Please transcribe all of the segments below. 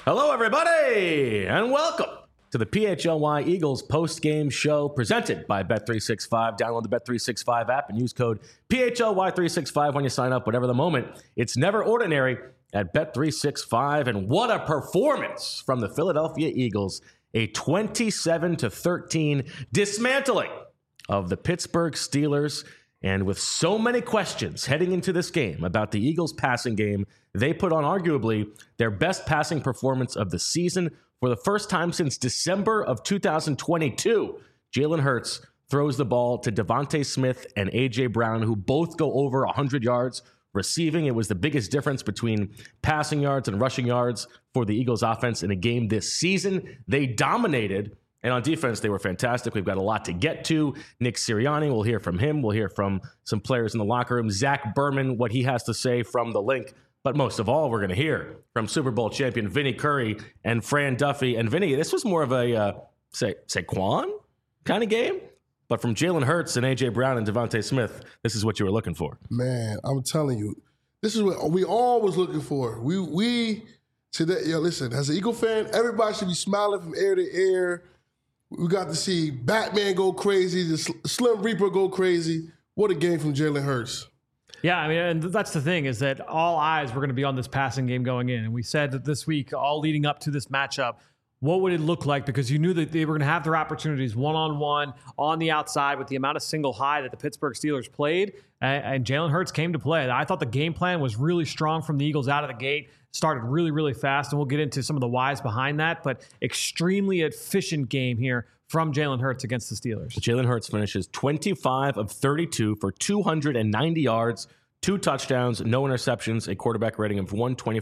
Hello, everybody, and welcome to the PHLY Eagles post-game show presented by Bet365. Download the Bet365 app and use code PHLY365 when you sign up. Whatever the moment, it's never ordinary at Bet365. And what a performance from the Philadelphia Eagles. A 27-13 dismantling of the Pittsburgh Steelers. And with so many questions heading into this game about the Eagles' passing game, they put on arguably their best passing performance of the season for the first time since December of 2022. Jalen Hurts throws the ball to Devontae Smith and A.J. Brown, who both go over 100 yards receiving. It was the biggest difference between passing yards and rushing yards for the Eagles' offense in a game this season. They dominated. And on defense, they were fantastic. We've got a lot to get to. Nick Sirianni, we'll hear from him. We'll hear from some players in the locker room. Zach Berman, what he has to say from the link. But most of all, we're going to hear from Super Bowl champion Vinny Curry and Fran Duffy. And Vinny, this was more of a Saquon kind of game. But from Jalen Hurts and A.J. Brown and Devontae Smith, this is what you were looking for. Man, I'm telling you, this is what we all was looking for. We today, listen, as an Eagle fan, everybody should be smiling from ear to ear. We got to see Batman go crazy, the Slim Reaper go crazy. What a game from Jalen Hurts. Yeah, I mean, and that's the thing is that all eyes were going to be on this passing game going in. And we said that this week, all leading up to this matchup, what would it look like? Because you knew that they were going to have their opportunities one-on-one on the outside with the amount of single high that the Pittsburgh Steelers played. And Jalen Hurts came to play. I thought the game plan was really strong from the Eagles out of the gate. Started really, really fast. And we'll get into some of the whys behind that. But extremely efficient game here from Jalen Hurts against the Steelers. Jalen Hurts finishes 25 of 32 for 290 yards, 2 touchdowns, no interceptions, a quarterback rating of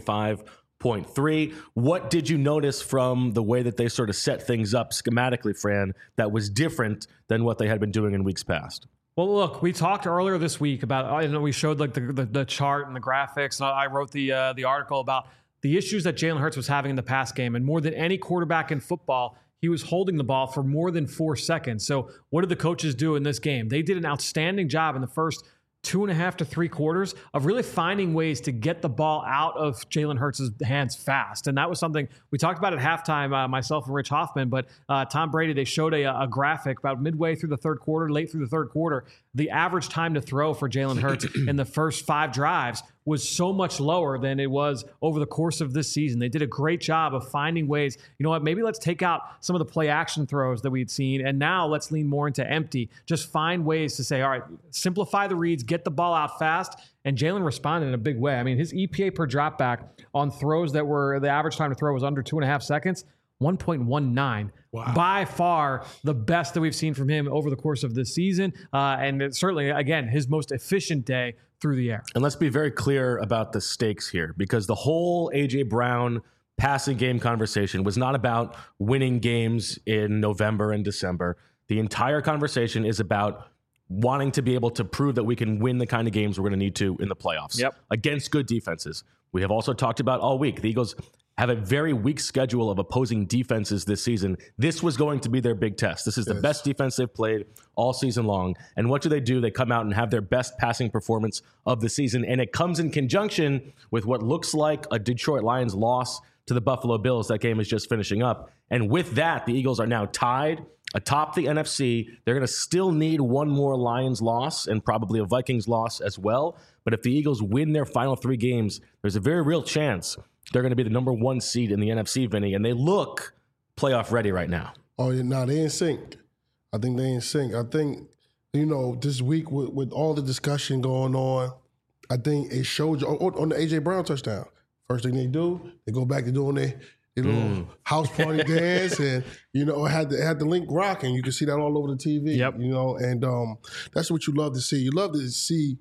125.3. What did you notice from the way that they sort of set things up schematically, Fran, that was different than what they had been doing in weeks past? Well, look, we talked earlier this week about, we showed like the chart and the graphics, and I wrote the article about the issues that Jalen Hurts was having in the pass game. And more than any quarterback in football, he was holding the ball for more than 4 seconds. So what did the coaches do in this game? They did an outstanding job in the first 2.5 to 3 quarters of really finding ways to get the ball out of Jalen Hurts' hands fast. And that was something we talked about at halftime, myself and Rich Hoffman, but Tom Brady, they showed a graphic about midway through the third quarter, late through the third quarter, the average time to throw for Jalen Hurts in the first 5 drives was so much lower than it was over the course of this season. They did a great job of finding ways, you know what, maybe let's take out some of the play action throws that we'd seen, and now let's lean more into empty. Just find ways to say, all right, simplify the reads, get the ball out fast, and Jalen responded in a big way. I mean, his EPA per dropback on throws that were, the average time to throw was under 2.5 seconds, 1.19. Wow. By far the best that we've seen from him over the course of this season. And it's certainly, again, his most efficient day through the air. And let's be very clear about the stakes here, because the whole A.J. Brown passing game conversation was not about winning games in November and December. The entire conversation is about wanting to be able to prove that we can win the kind of games we're going to need to in the playoffs against good defenses. We have also talked about all week, the Eagles have a very weak schedule of opposing defenses this season. This was going to be their big test. This is the best defense they've played all season long. And what do? They come out and have their best passing performance of the season. And it comes in conjunction with what looks like a Detroit Lions loss to the Buffalo Bills. That game is just finishing up. And with that, the Eagles are now tied atop the NFC. They're going to still need one more Lions loss and probably a Vikings loss as well. But if the Eagles win their final 3 games, there's a very real chance they're going to be the number 1 seed in the NFC, Vinny, and they look playoff ready right now. Oh, yeah, no, they in sync. I think they in sync. I think, this week with all the discussion going on, I think it showed you on the A.J. Brown touchdown. First thing they do, they go back to doing their little house party dance, and had the link rocking. You can see that all over the TV. Yep. And that's what you love to see. You love to see,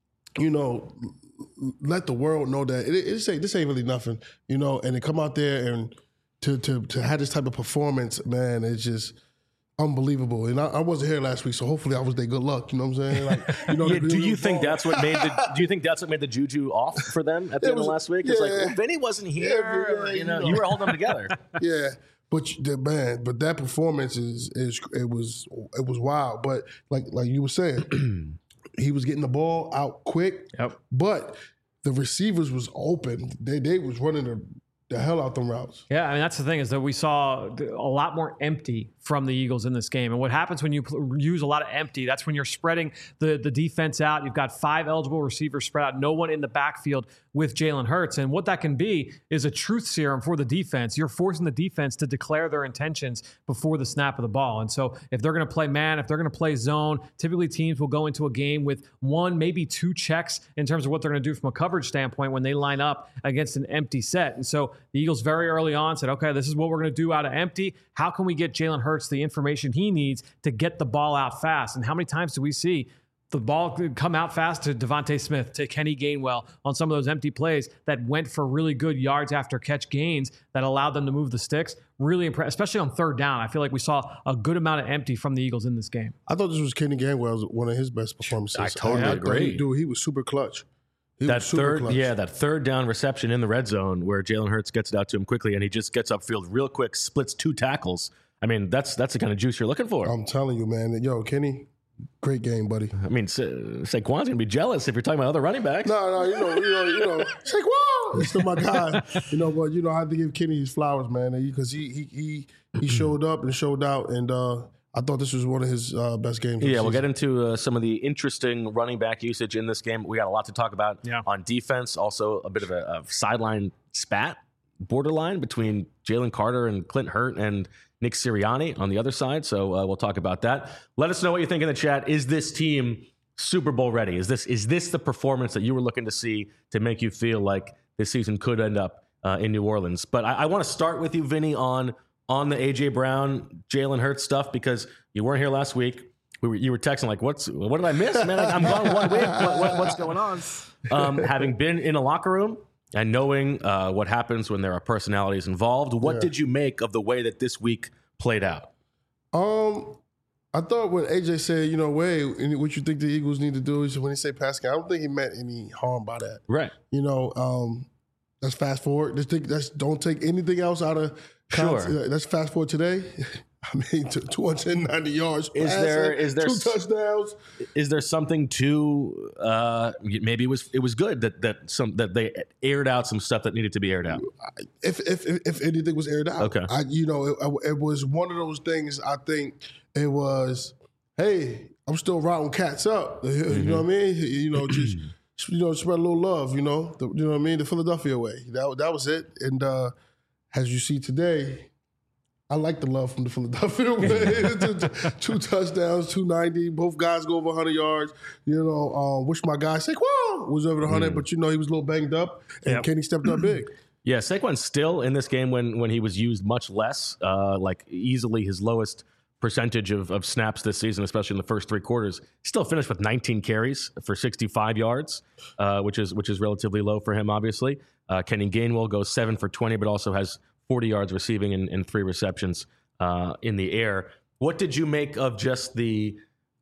let the world know that this ain't really nothing, and to come out there and to have this type of performance, man, it's just unbelievable. And I wasn't here last week, so hopefully I was there. Good luck. You know what I'm saying? Like, do you think that's what made the juju off for them at the end of last week? It's like, well, Vinny wasn't here. You were holding them together. Yeah. But that performance it was wild. But like you were saying, he was getting the ball out quick. Yep. But the receivers was open. They was running the hell out them routes. Yeah, I mean, that's the thing is that we saw a lot more empty from the Eagles in this game. And what happens when you use a lot of empty, that's when you're spreading the defense out. You've got 5 eligible receivers spread out, no one in the backfield with Jalen Hurts. And what that can be is a truth serum for the defense. You're forcing the defense to declare their intentions before the snap of the ball. And so if they're going to play man, if they're going to play zone, typically teams will go into a game with 1, maybe 2 checks in terms of what they're going to do from a coverage standpoint when they line up against an empty set. And so the Eagles very early on said, okay, this is what we're going to do out of empty. How can we get Jalen Hurts the information he needs to get the ball out fast? And how many times do we see the ball come out fast to Devontae Smith, to Kenny Gainwell on some of those empty plays that went for really good yards after catch gains that allowed them to move the sticks? Really impressive, especially on 3rd down. I feel like we saw a good amount of empty from the Eagles in this game. I thought this was Kenny Gainwell's one of his best performances. I totally agree. Dude, he was super clutch. That 3rd down reception in the red zone where Jalen Hurts gets it out to him quickly and he just gets upfield real quick, splits 2 tackles. I mean, that's the kind of juice you're looking for. I'm telling you, man. Yo, Kenny, great game, buddy. I mean, Saquon's going to be jealous if you're talking about other running backs. No, you know, Saquon, he's still my guy. But I have to give Kenny his flowers, man, because he showed up and showed out, and I thought this was one of his best games. Yeah, we'll get into some of the interesting running back usage in this game. We got a lot to talk about on defense. Also, a bit of a sideline spat borderline between Jalen Carter and Clint Hurt and Nick Sirianni on the other side. So we'll talk about that. Let us know what you think in the chat. Is this team Super Bowl ready? Is this the performance that you were looking to see to make you feel like this season could end up in New Orleans? But I want to start with you, Vinny, on the A.J. Brown, Jalen Hurts stuff, because you weren't here last week. You were texting like, what did I miss, man? I'm gone 1 week. What's going on? Having been in a locker room and knowing what happens when there are personalities involved, what did you make of the way that this week played out? I thought when AJ said, what you think the Eagles need to do is when he say pass game, I don't think he meant any harm by that. Right. Let's fast forward. Don't take anything else out of context. Let's fast forward today. I mean, 290 yards. Is there 2 touchdowns? Is there something to maybe it was good that they aired out some stuff that needed to be aired out? If anything was aired out, okay. It was one of those things. I think it was, hey, I'm still routing cats up. You know what I mean? Just spread a little love. You know what I mean? The Philadelphia way. That was it. And as you see today, I like the love from the Philadelphia way. 2 touchdowns, 290. Both guys go over 100 yards. Wish my guy Saquon was over the 100, but he was a little banged up, and Kenny stepped up big. Yeah, Saquon's still in this game when he was used much less, like easily his lowest percentage of snaps this season, especially in the first 3 quarters. Still finished with 19 carries for 65 yards, which is relatively low for him, obviously. Kenny Gainwell goes 7 for 20, but also has 40 yards receiving and 3 receptions in the air. What did you make of just the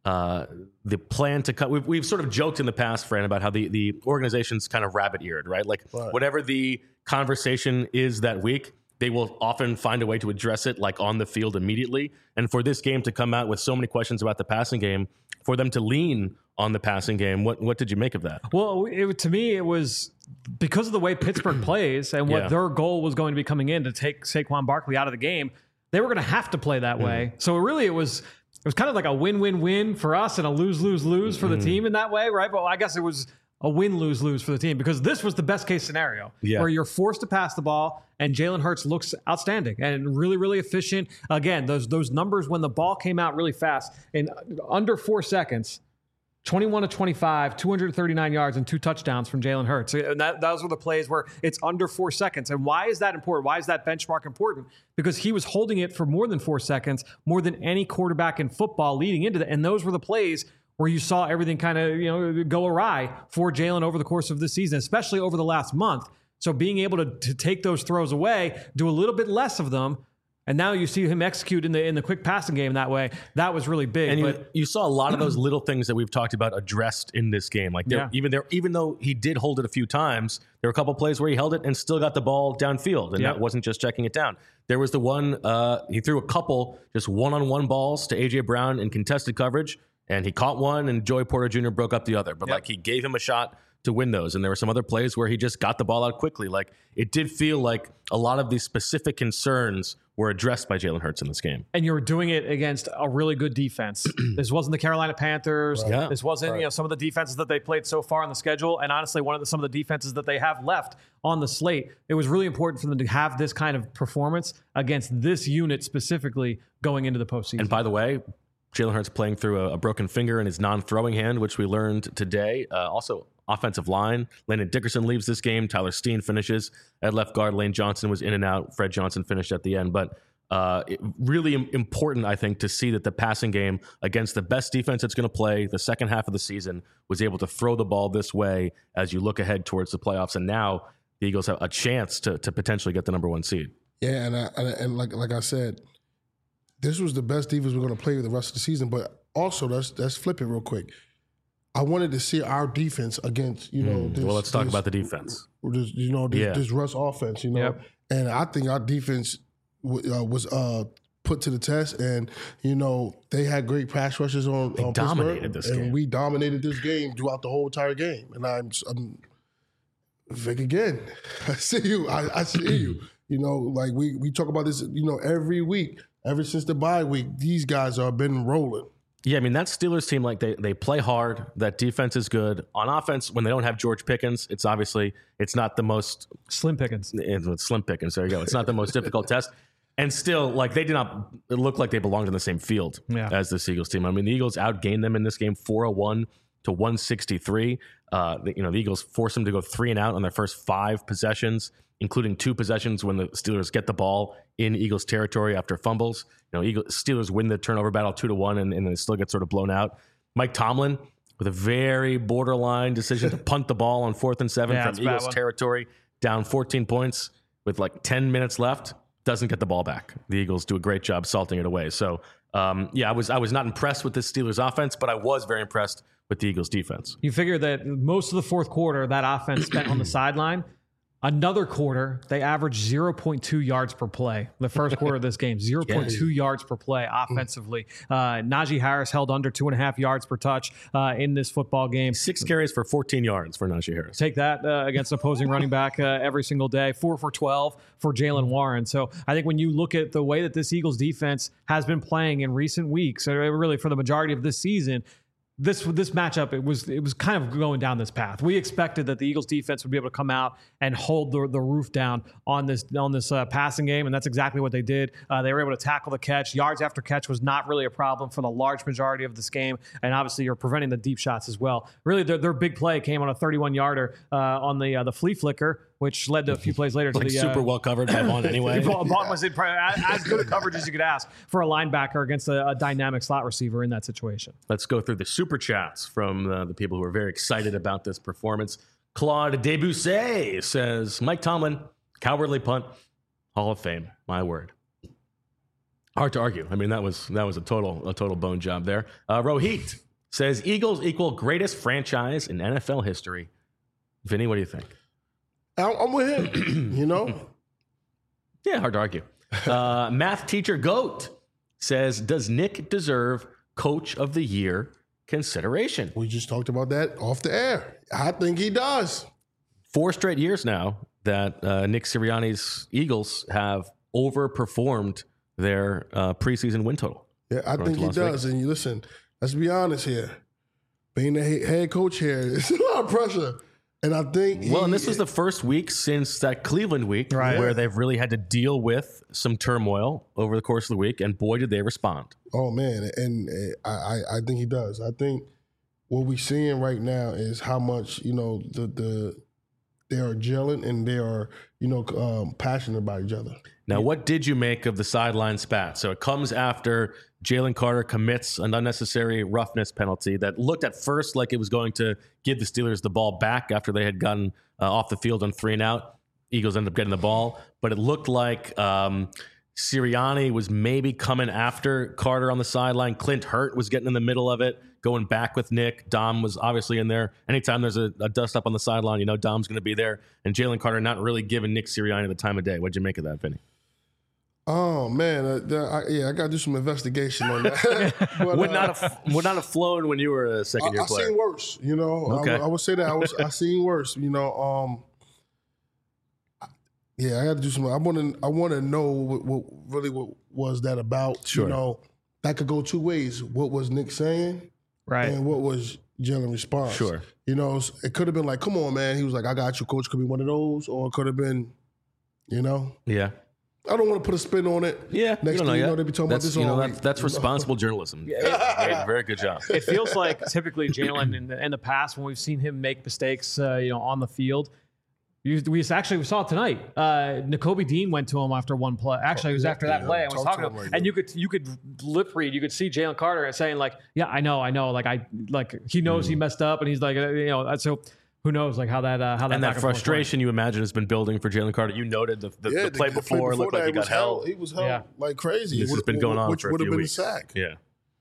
plan to cut? We've sort of joked in the past, Fran, about how the organization's kind of rabbit-eared, right? Like whatever the conversation is that week, they will often find a way to address it like on the field immediately. And for this game to come out with so many questions about the passing game, for them to lean on the passing game, what did you make of that? Well, to me, it was because of the way Pittsburgh plays and what their goal was going to be coming in to take Saquon Barkley out of the game, they were going to have to play that way. So it was kind of like a win-win-win for us and a lose-lose-lose for the team in that way, right? But I guess it was a win-lose-lose for the team because this was the best-case scenario where you're forced to pass the ball and Jalen Hurts looks outstanding and really, really efficient. Again, those numbers when the ball came out really fast in under 4 seconds, 21 to 25, 239 yards and 2 touchdowns from Jalen Hurts. And those were the plays where it's under 4 seconds. And why is that important? Why is that benchmark important? Because he was holding it for more than 4 seconds, more than any quarterback in football leading into that. And those were the plays where you saw everything kind of go awry for Jalen over the course of this season, especially over the last month. So being able to take those throws away, do a little bit less of them, and now you see him execute in the quick passing game that way. That was really big. And you saw a lot of those little things that we've talked about addressed in this game. Like even though he did hold it a few times, there were a couple plays where he held it and still got the ball downfield, and that wasn't just checking it down. There was the one he threw a couple just one-on-one balls to A.J. Brown in contested coverage, and he caught one, and Joey Porter Jr. broke up the other. But he gave him a shot to win those. And there were some other plays where he just got the ball out quickly. Like, it did feel like a lot of these specific concerns were addressed by Jalen Hurts in this game. And you were doing it against a really good defense. This wasn't the Carolina Panthers. Right. Yeah. This wasn't some of the defenses that they played so far on the schedule. And honestly, some of the defenses that they have left on the slate. It was really important for them to have this kind of performance against this unit specifically going into the postseason. And by the way, Jalen Hurts playing through a broken finger in his non-throwing hand, which we learned today. Also, offensive line. Landon Dickerson leaves this game. Tyler Steen finishes at left guard. Lane Johnson was in and out. Fred Johnson finished at the end. But really important, I think, to see that the passing game against the best defense that's going to play the second half of the season was able to throw the ball this way as you look ahead towards the playoffs. And now the Eagles have a chance to potentially get the number 1 seed. Yeah, and like I said, this was the best defense we're going to play the rest of the season. But also, let's flip it real quick. I wanted to see our defense against, this, well, let's talk about the defense. This Russ offense, Yep. And I think our defense was put to the test. And, they had great pass rushes on dominated Pittsburgh, this and game. we dominated this game throughout the whole entire game. And I'm Vic again. I see you. I see you. Like we talk about this, every week. Ever since the bye week, these guys have been rolling. Yeah, I mean, that Steelers team, like they play hard. That defense is good. On offense, when they don't have George Pickens, it's not the most Slim Pickens. It's Slim Pickens. There you go. It's not the most difficult test. And still, like, they did not look like they belonged in the same field as the Eagles team. I mean, the Eagles outgained them in this game 401 to 163. The Eagles forced them to go 3 and out on their first 5 possessions, including 2 possessions when the Steelers get the ball in Eagles territory after fumbles. Steelers win the turnover battle 2-1, and they still get sort of blown out. Mike Tomlin with a very borderline decision to punt the ball on 4th and 7 from Eagles territory, down 14 points with like 10 minutes left, doesn't get the ball back. The Eagles do a great job salting it away. So, I was not impressed with the Steelers offense, but I was very impressed with the Eagles defense. You figure that most of the fourth quarter, that offense spent on the sideline. Another quarter, they averaged 0.2 yards per play. The first quarter of this game, 0.2 yards per play offensively. Najee Harris held under 2.5 yards per touch in this football game. 6 carries for 14 yards for Najee Harris. Take that against opposing running back every single day. 4 for 12 for Jaylen Warren. So I think when you look at the way that this Eagles defense has been playing in recent weeks, or really for the majority of this season, this matchup, it was kind of going down this path. We expected that the Eagles defense would be able to come out and hold the roof down on this passing game, and that's exactly what they did. They were able to tackle the catch. Yards after catch was not really a problem for the large majority of this game, and obviously you're preventing the deep shots as well. Really, their big play came on a 31-yarder on the flea flicker, which led to a few plays later to the super well covered by Vaughn anyway. Vaughn was in as good a coverage as you could ask for a linebacker against a dynamic slot receiver in that situation. Let's go through the super chats from the people who are very excited about this performance. Claude Debussy says, Mike Tomlin, cowardly punt, Hall of Fame. My word. Hard to argue. I mean, that was a total bone job there. Rohit says, Eagles equal greatest franchise in NFL history. Vinny, what do you think? I'm with him, Yeah, hard to argue. Math teacher Goat says, does Nick deserve Coach of the Year consideration? We just talked about that off the air. I think he does. 4 straight years now that Nick Sirianni's Eagles have overperformed their preseason win total. Yeah, I think he does. And listen, let's be honest here. Being the head coach here, it's a lot of pressure. And I think and this was the first week since that Cleveland week where they've really had to deal with some turmoil over the course of the week, and boy, did they respond. Oh, man, and I think he does. I think what we're seeing right now is how much, they are gelling and they are, passionate about each other. Now, what did you make of the sideline spat? So it comes after Jalen Carter commits an unnecessary roughness penalty that looked at first like it was going to give the Steelers the ball back after they had gotten off the field on 3 and out. Eagles ended up getting the ball, but it looked like Sirianni was maybe coming after Carter on the sideline. Clint Hurt was getting in the middle of it, going back with Nick. Dom was obviously in there. Anytime there's a dust up on the sideline, Dom's going to be there. And Jalen Carter not really giving Nick Sirianni the time of day. What'd you make of that, Vinny? Oh man, I got to do some investigation on that. But, would not have flown when you were a second year player. I seen worse. You know, Okay. I would say that I seen worse. You know, yeah, I got to do some. I want to know what was that about. Sure. You know, that could go two ways. What was Nick saying, Right. and what was Jalen response? Sure. You know, it could have been like, "Come on, man." He was like, "I got you, coach." Could be one of those, or it could have been, you know. Yeah. I don't want to put a spin on it. Yeah, Next thing you know, they be talking about this all week. That's responsible journalism. Very good job. It feels like typically Jalen in the past when we've seen him make mistakes, on the field. We saw it tonight. Nakobe Dean went to him after one play. Actually, it was after that play. I was talking to him, and you could lip read. You could see Jalen Carter saying like, "Yeah, I know. He knows he messed up," and he's like, so. Who knows, like how that And that frustration you imagine has been building for Jalen Carter. You noted the play before looked like he got held. He was held like crazy. This has been going on for a few weeks. Which would have been a sack.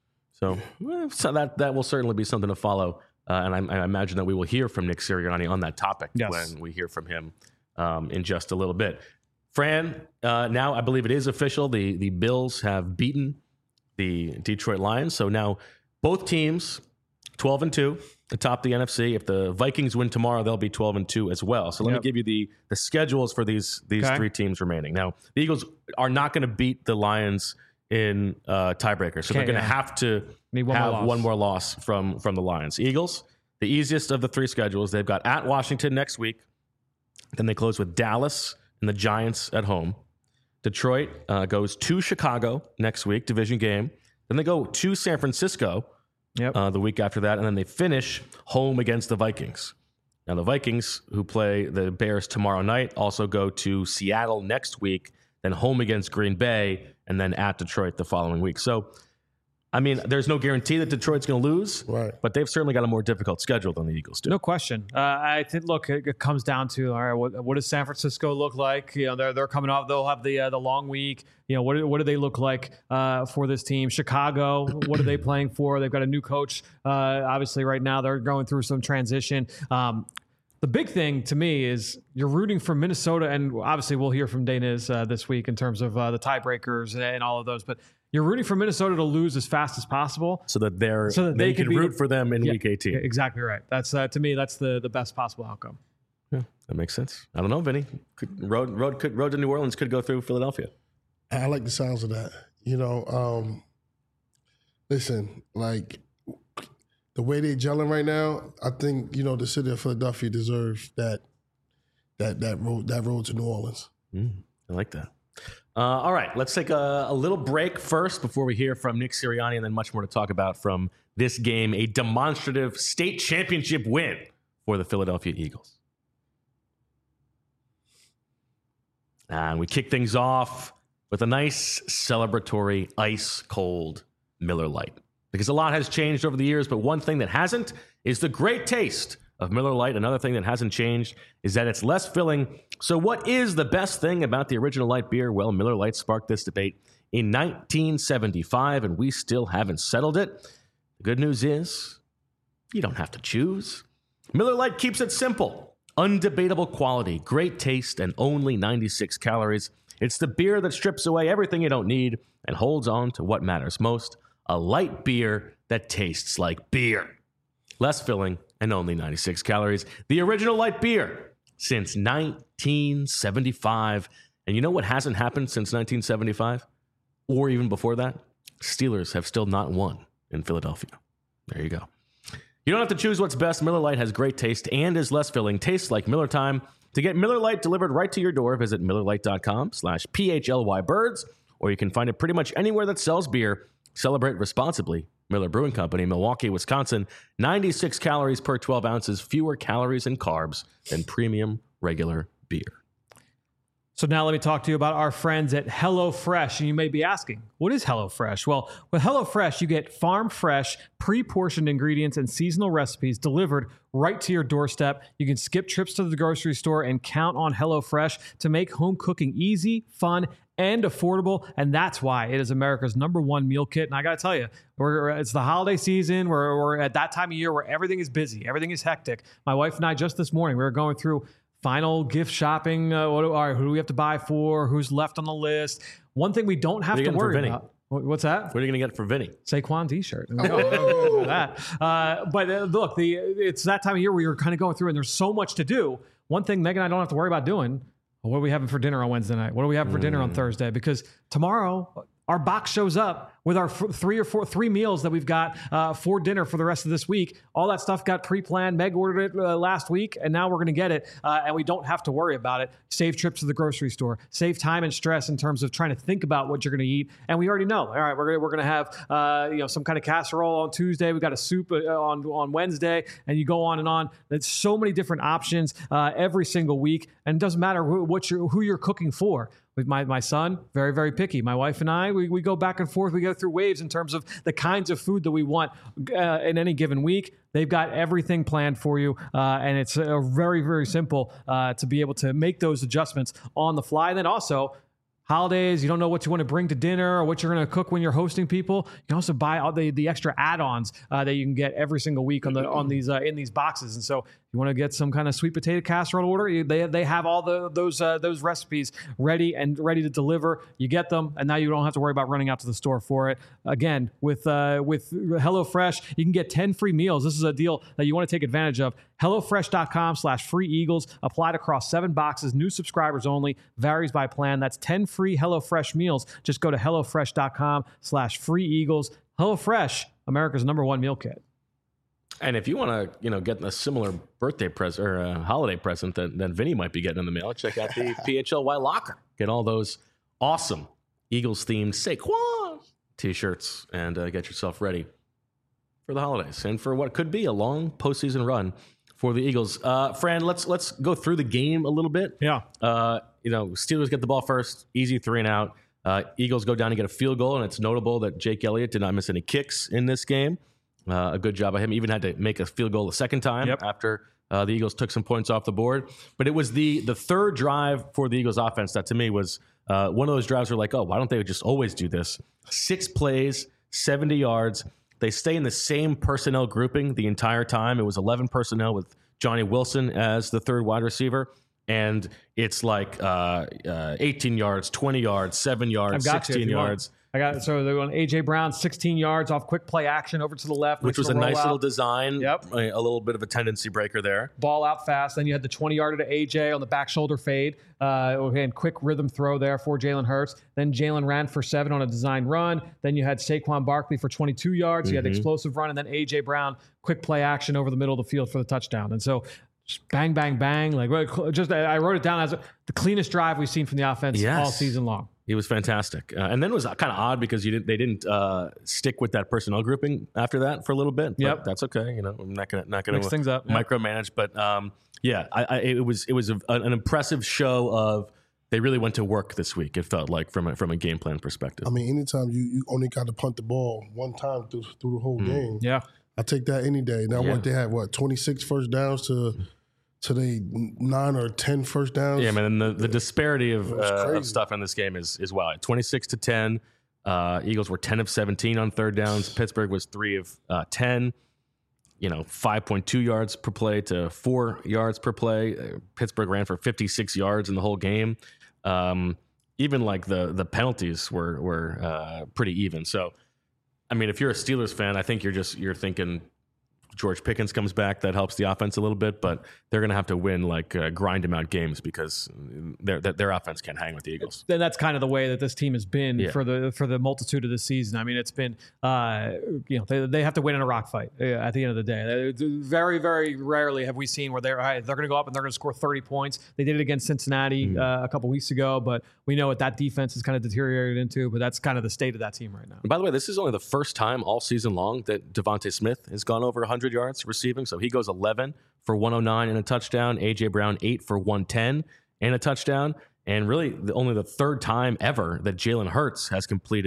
Yeah. So that will certainly be something to follow. And I imagine that we will hear from Nick Sirianni on that topic when we hear from him in just a little bit. Fran, now I believe it is official. The Bills have beaten the Detroit Lions. So now both teams 12-2 atop the NFC. If the Vikings win tomorrow, they'll be 12-2 as well. So let me give you the schedules for these three teams remaining. Now, the Eagles are not going to beat the Lions in tiebreaker. So they're going to have to have one more loss from the Lions. Eagles, the easiest of the three schedules. They've got at Washington next week. Then they close with Dallas and the Giants at home. Detroit goes to Chicago next week, division game. Then they go to San Francisco the week after that, and then they finish home against the Vikings. Now, the Vikings, who play the Bears tomorrow night, also go to Seattle next week, then home against Green Bay, and then at Detroit the following week. So, I mean, there's no guarantee that Detroit's going to lose, but they've certainly got a more difficult schedule than the Eagles do. No question. I think, look, it comes down to, all right, what does San Francisco look like? They're coming off. They'll have the long week. What do they look like for this team? Chicago, what are they playing for? They've got a new coach. Obviously, right now they're going through some transition. The big thing to me is you're rooting for Minnesota, and obviously we'll hear from Daniz this week in terms of the tiebreakers and all of those, but you're rooting for Minnesota to lose as fast as possible. So that they can root for them in Week 18. Exactly right. That's to me, that's the best possible outcome. Yeah, that makes sense. I don't know, Vinny. Road to New Orleans could go through Philadelphia. I like the sounds of that. Listen, like the way they're gelling right now, I think the city of Philadelphia deserves that road to New Orleans. I like that. All right, let's take a little break first before we hear from Nick Sirianni, and then much more to talk about from this game, a demonstrative state championship win for the Philadelphia Eagles. And we kick things off with a nice celebratory ice-cold Miller Lite. Because a lot has changed over the years, but one thing that hasn't is the great taste of Miller Lite. Another thing that hasn't changed is that it's less filling. So what is the best thing about the original light beer? Well, Miller Lite sparked this debate in 1975, and we still haven't settled it. The good news is you don't have to choose. Miller Lite keeps it simple. Undebatable quality, great taste, and only 96 calories. It's the beer that strips away everything you don't need and holds on to what matters most. A light beer that tastes like beer. Less filling and only 96 calories. The original light beer since 1975. And you know what hasn't happened since 1975? Or even before that? Steelers have still not won in Philadelphia. There you go. You don't have to choose what's best. Miller Lite has great taste and is less filling. Tastes like Miller time. To get Miller Lite delivered right to your door, visit MillerLite.com/PHLYBirds, or you can find it pretty much anywhere that sells beer. Celebrate responsibly. Miller Brewing Company, Milwaukee, Wisconsin. 96 calories per 12 ounces, fewer calories and carbs than premium regular beer. So now let me talk to you about our friends at HelloFresh. And you may be asking, what is HelloFresh? Well, with HelloFresh, you get farm-fresh, pre-portioned ingredients and seasonal recipes delivered right to your doorstep. You can skip trips to the grocery store and count on HelloFresh to make home cooking easy, fun, and affordable, and that's why it is America's #1 meal kit. And I got to tell you, it's the holiday season. We're at that time of year where everything is busy, everything is hectic. My wife and I just this morning we were going through final gift shopping. All right, who do we have to buy for? Who's left on the list? One thing we don't have to worry about. What's that? What are you going to get for Vinny? Saquon t-shirt. Look, it's that time of year where you're kind of going through and there's so much to do. One thing Megan and I don't have to worry about doing, what are we having for dinner on Wednesday night? What are we having for dinner on Thursday? Because tomorrow our box shows up with our three meals that we've got for dinner for the rest of this week. All that stuff got pre-planned. Meg ordered it last week, and now we're going to get it, and we don't have to worry about it. Save trips to the grocery store. Save time and stress in terms of trying to think about what you're going to eat. And we already know. All right, we're going to have some kind of casserole on Tuesday. We got a soup on Wednesday, and you go on and on. There's so many different options every single week, and it doesn't matter who you're cooking for. With my son, very, very picky. My wife and I, we go back and forth. We go through waves in terms of the kinds of food that we want in any given week. They've got everything planned for you, and it's very, very simple to be able to make those adjustments on the fly. And then also, holidays, you don't know what you want to bring to dinner or what you're going to cook when you're hosting people. You can also buy all the extra add-ons that you can get every single week on these in these boxes. And so you want to get some kind of sweet potato casserole order, they have all those recipes ready to deliver. You get them, and now you don't have to worry about running out to the store for it. Again, with HelloFresh, you can get 10 free meals. This is a deal that you want to take advantage of. HelloFresh.com/freeeagles. Applied across 7 boxes. New subscribers only. Varies by plan. That's 10 free HelloFresh meals. Just go to HelloFresh.com/freeeagles. HelloFresh, America's #1 meal kit. And if you want to, get a similar birthday present or a holiday present that Vinny might be getting in the mail, check out the PHLY locker. Get all those awesome Eagles-themed Saquon t-shirts and get yourself ready for the holidays and for what could be a long postseason run for the Eagles. Fran, let's go through the game a little bit. Yeah. Steelers get the ball first, easy 3 and out. Eagles go down and get a field goal, and it's notable that Jake Elliott did not miss any kicks in this game. A good job of him. Even had to make a field goal a second time after the Eagles took some points off the board. But it was the third drive for the Eagles offense that to me was one of those drives where like, oh, why don't they just always do this? 6 plays, 70 yards. They stay in the same personnel grouping the entire time. It was 11 personnel with Johnny Wilson as the third wide receiver. And it's like 18 yards, 20 yards, 7 yards, 16 yards. So they're going A.J. Brown, 16 yards off quick play action over to the left. Which was a nice little design. Yep. A little bit of a tendency breaker there. Ball out fast. Then you had the 20-yarder to A.J. on the back shoulder fade. And quick rhythm throw there for Jalen Hurts. Then Jalen ran for 7 on a design run. Then you had Saquon Barkley for 22 yards. You had the explosive run. And then A.J. Brown, quick play action over the middle of the field for the touchdown. And so bang, bang, bang. I wrote it down as the cleanest drive we've seen from the offense all season long. He was fantastic. And then it was kind of odd because they didn't stick with that personnel grouping after that for a little bit. But that's okay. I'm not gonna mix things up, micromanage. But it was an impressive show of they really went to work this week. It felt like from a game plan perspective. I mean, anytime you only got to punt the ball one time through the whole game. Yeah, I take that any day. Now what they had 26 first downs to they 9 or 10 first downs. Yeah, man. And the disparity of stuff in this game is wild. 26-10. Eagles were 10 of 17 on third downs. Pittsburgh was 3 of 10. 5.2 yards per play to 4 yards per play. Pittsburgh ran for 56 yards in the whole game. Even like the penalties were pretty even. So, I mean, if you're a Steelers fan, I think you're thinking George Pickens comes back, that helps the offense a little bit, but they're going to have to win grind them out games because their offense can't hang with the Eagles. And that's kind of the way that this team has been for the multitude of the season. I mean, it's been they have to win in a rock fight at the end of the day. Very, very rarely have we seen where they're going to go up and they're going to score 30 points. They did it against Cincinnati a couple weeks ago, but we know what that defense has kind of deteriorated into. But that's kind of the state of that team right now. And by the way, this is only the first time all season long that Devontae Smith has gone over 100 yards receiving. So he goes 11 for 109 and a touchdown. A.J. Brown 8 for 110 and a touchdown. And really only the third time ever that Jalen Hurts has completed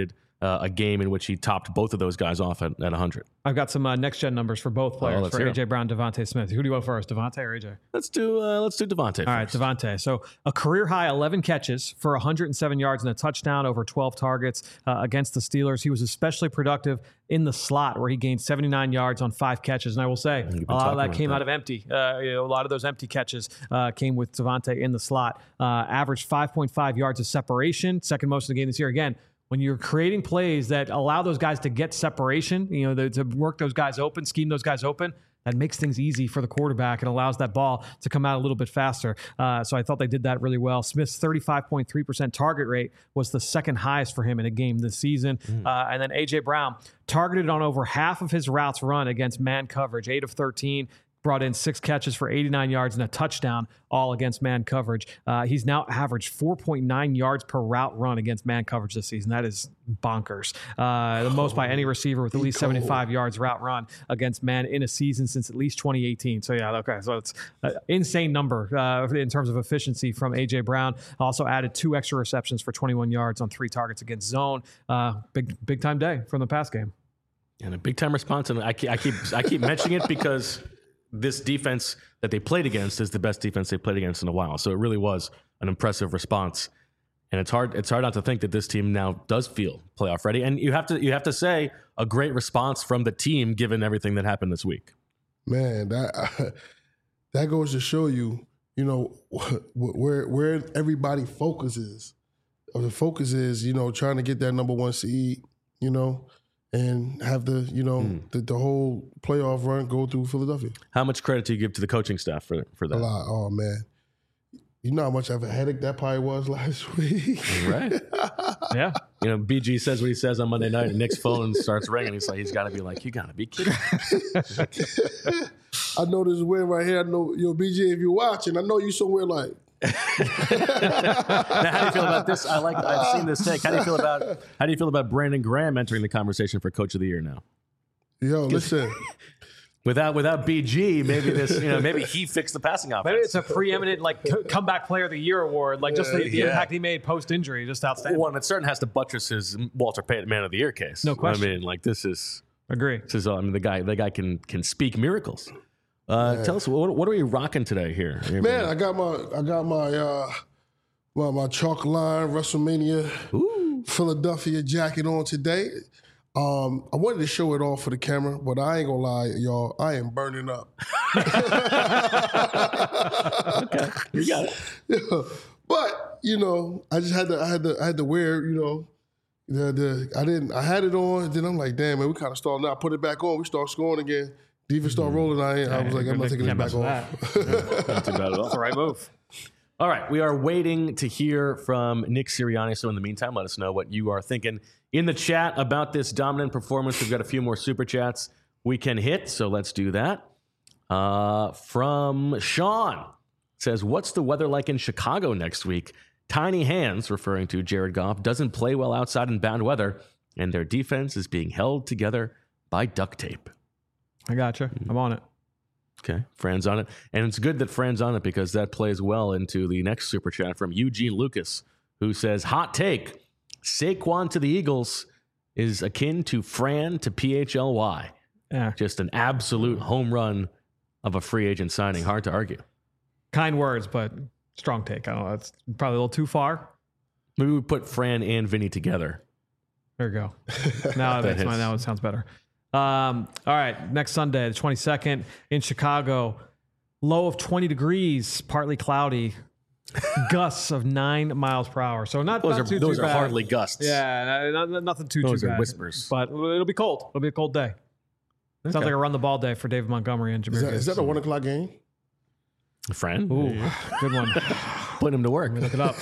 a game in which he topped both of those guys off at 100. I've got some next-gen numbers for both players, for A.J. Brown, Devontae Smith. Who do you want first, Devontae or A.J.? Let's do Devontae first. All right, Devontae. So a career-high 11 catches for 107 yards and a touchdown over 12 targets against the Steelers. He was especially productive in the slot where he gained 79 yards on 5 catches. And I will say, a lot of that came out of empty. A lot of those empty catches came with Devontae in the slot. Averaged 5.5 yards of separation, second most in the game this year. Again, when you're creating plays that allow those guys to get separation, to work those guys open, scheme those guys open, that makes things easy for the quarterback and allows that ball to come out a little bit faster. So I thought they did that really well. Smith's 35.3% target rate was the second highest for him in a game this season. And then A.J. Brown targeted on over half of his routes run against man coverage, 8 of 13. Brought in 6 catches for 89 yards and a touchdown, all against man coverage. He's now averaged 4.9 yards per route run against man coverage this season. That is bonkers. The most by any receiver with at least 75 yards route run against man in a season since at least 2018. So, yeah, okay. So it's an insane number in terms of efficiency from A.J. Brown. Also added 2 extra receptions for 21 yards on 3 targets against zone. Big time day from the pass game. And a big time response. And I keep mentioning it because this defense that they played against is the best defense they played against in a while. So it really was an impressive response. And it's hard not to think that this team now does feel playoff ready. And you have to say a great response from the team given everything that happened this week. Man, that goes to show you, where everybody focuses. The focus is, trying to get that number 1 seed, and have the whole playoff run go through Philadelphia. How much credit do you give to the coaching staff for that? A lot. Oh, man. You know how much of a headache that probably was last week? Right. Yeah. BG says what he says on Monday night, and Nick's phone starts ringing. He's got to be like, you got to be kidding. I know this win right here. I know, BG, if you're watching, I know you somewhere like. Now, how do you feel about this? I've seen this take. How do you feel about Brandon Graham entering the conversation for Coach of the Year now? Yo, listen. Without BG, maybe maybe he fixed the passing offense. Maybe it's a preeminent comeback player of the year award, just the impact he made post injury, just outstanding. One, it certainly has to buttress his Walter Payton Man of the Year case. No question. I mean, this is agree. The guy can speak miracles. Tell us what are we rocking today here? Man, I got my chalk line WrestleMania Philadelphia jacket on today. I wanted to show it off for the camera, but I ain't gonna lie, y'all. I am burning up. Okay, you got it. Yeah. But I just had to wear. I had it on. Then I'm like, damn man, we kind of stalled. Now I put it back on. We start scoring again. Defense start rolling. I was like, I'm not taking this back off. Not too bad at all. That's the right move. All right, we are waiting to hear from Nick Sirianni. So in the meantime, let us know what you are thinking in the chat about this dominant performance. We've got a few more super chats we can hit, so let's do that. From Sean, says, what's the weather like in Chicago next week? Tiny hands, referring to Jared Goff, doesn't play well outside in bad weather, and their defense is being held together by duct tape. I gotcha. I'm on it. Okay, Fran's on it. And it's good that Fran's on it because that plays well into the next super chat from Eugene Lucas, who says, hot take, Saquon to the Eagles is akin to Fran to PHLY. Yeah. Just an absolute home run of a free agent signing. Hard to argue. Kind words, but strong take. I don't know. That's probably a little too far. Maybe we put Fran and Vinny together. There you go. Now it sounds better. All right, next Sunday, the 22nd in Chicago, low of 20 degrees, partly cloudy, gusts of 9 miles per hour. So those are hardly gusts. Yeah, nothing too bad. Those are whispers. But it'll be cold. It'll be a cold day. Sounds like a run the ball day for David Montgomery and Jahmyr Gibbs. Is that a 1 o'clock game? Fran? Ooh, good one. Put him to work. Look it up.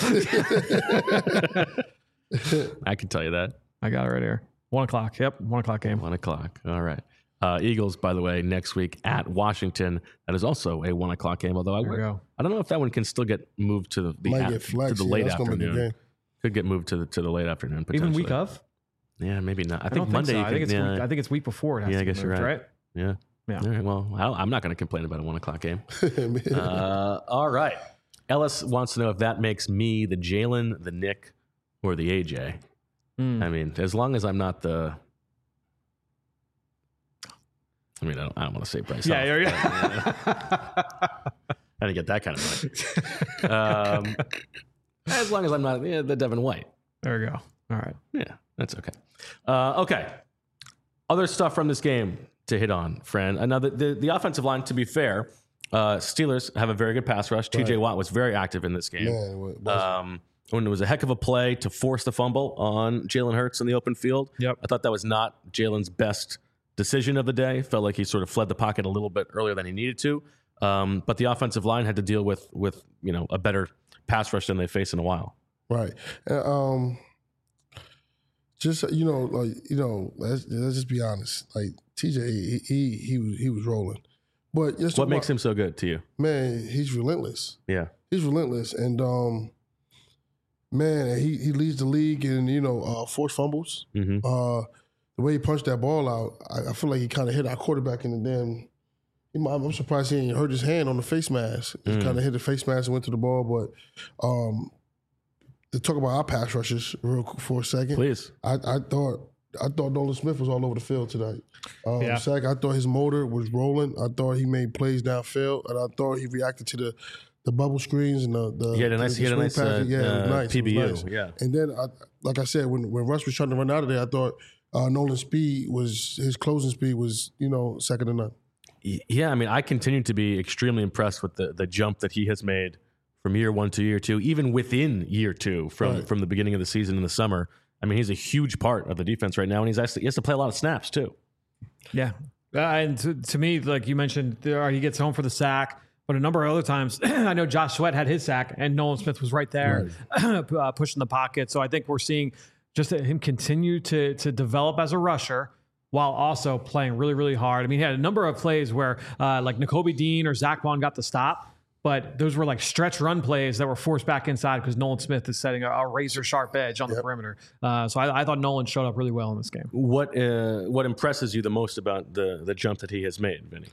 I can tell you that. I got it right here. 1 o'clock. Yep, 1 o'clock game. 1 o'clock. All right. Eagles, by the way, next week at Washington. That is also a 1 o'clock game. Although I don't know if that one can still get moved to the late afternoon. Could get moved to the late afternoon. Even week of? Yeah, maybe not. I think Monday. So. I think it's week before. It has I guess moved, you're right. Yeah. Yeah. All right, well, I'm not going to complain about a 1 o'clock game. All right. Ellis wants to know if that makes me the Jalen, the Nick, or the AJ. I mean, as long as I'm not the. I mean, I don't want to say Bryce. Yeah. I didn't get that kind of money. As long as I'm not the Devin White. There we go. All right. Yeah, that's okay. Okay. Other stuff from this game to hit on, Fran. Another the offensive line, to be fair, Steelers have a very good pass rush. TJ Watt was very active in this game. When it was a heck of a play to force the fumble on Jalen Hurts in the open field. Yep. I thought that was not Jalen's best decision of the day. Felt like he sort of fled the pocket a little bit earlier than he needed to. But the offensive line had to deal with a better pass rush than they faced in a while. Right. Just let's just be honest. Like TJ, he was rolling. But what makes him so good to you? Man, he's relentless. Yeah, he's relentless, and man, he leads the league in forced fumbles. Mm-hmm. The way he punched that ball out, I feel like he kind of hit our quarterback in the damn. I'm surprised he ain't hurt his hand on the face mask. He kind of hit the face mask and went to the ball. But to talk about our pass rushes real quick for a second, please. I thought Nolan Smith was all over the field tonight. Zach, I thought his motor was rolling. I thought he made plays downfield, and I thought he reacted to the bubble screens and the he had a nice PBU. Nice. Yeah, and then like I said, when Russ was trying to run out of there, I thought Nolan's his closing speed was second to none. Yeah, I mean, I continue to be extremely impressed with the jump that he has made from year one to year two, even within year two from the beginning of the season in the summer. I mean, he's a huge part of the defense right now, and he has to play a lot of snaps too. Yeah, and to me, like you mentioned, he gets home for the sack, but a number of other times, I know Josh Sweat had his sack, and Nolan Smith was right there pushing the pocket. So I think we're seeing just him continue to develop as a rusher, while also playing really, really hard. I mean, he had a number of plays where like Nakobe Dean or Zach Bond got the stop, but those were like stretch run plays that were forced back inside because Nolan Smith is setting a razor sharp edge on the perimeter. So I thought Nolan showed up really well in this game. What impresses you the most about the jump that he has made, Vinny?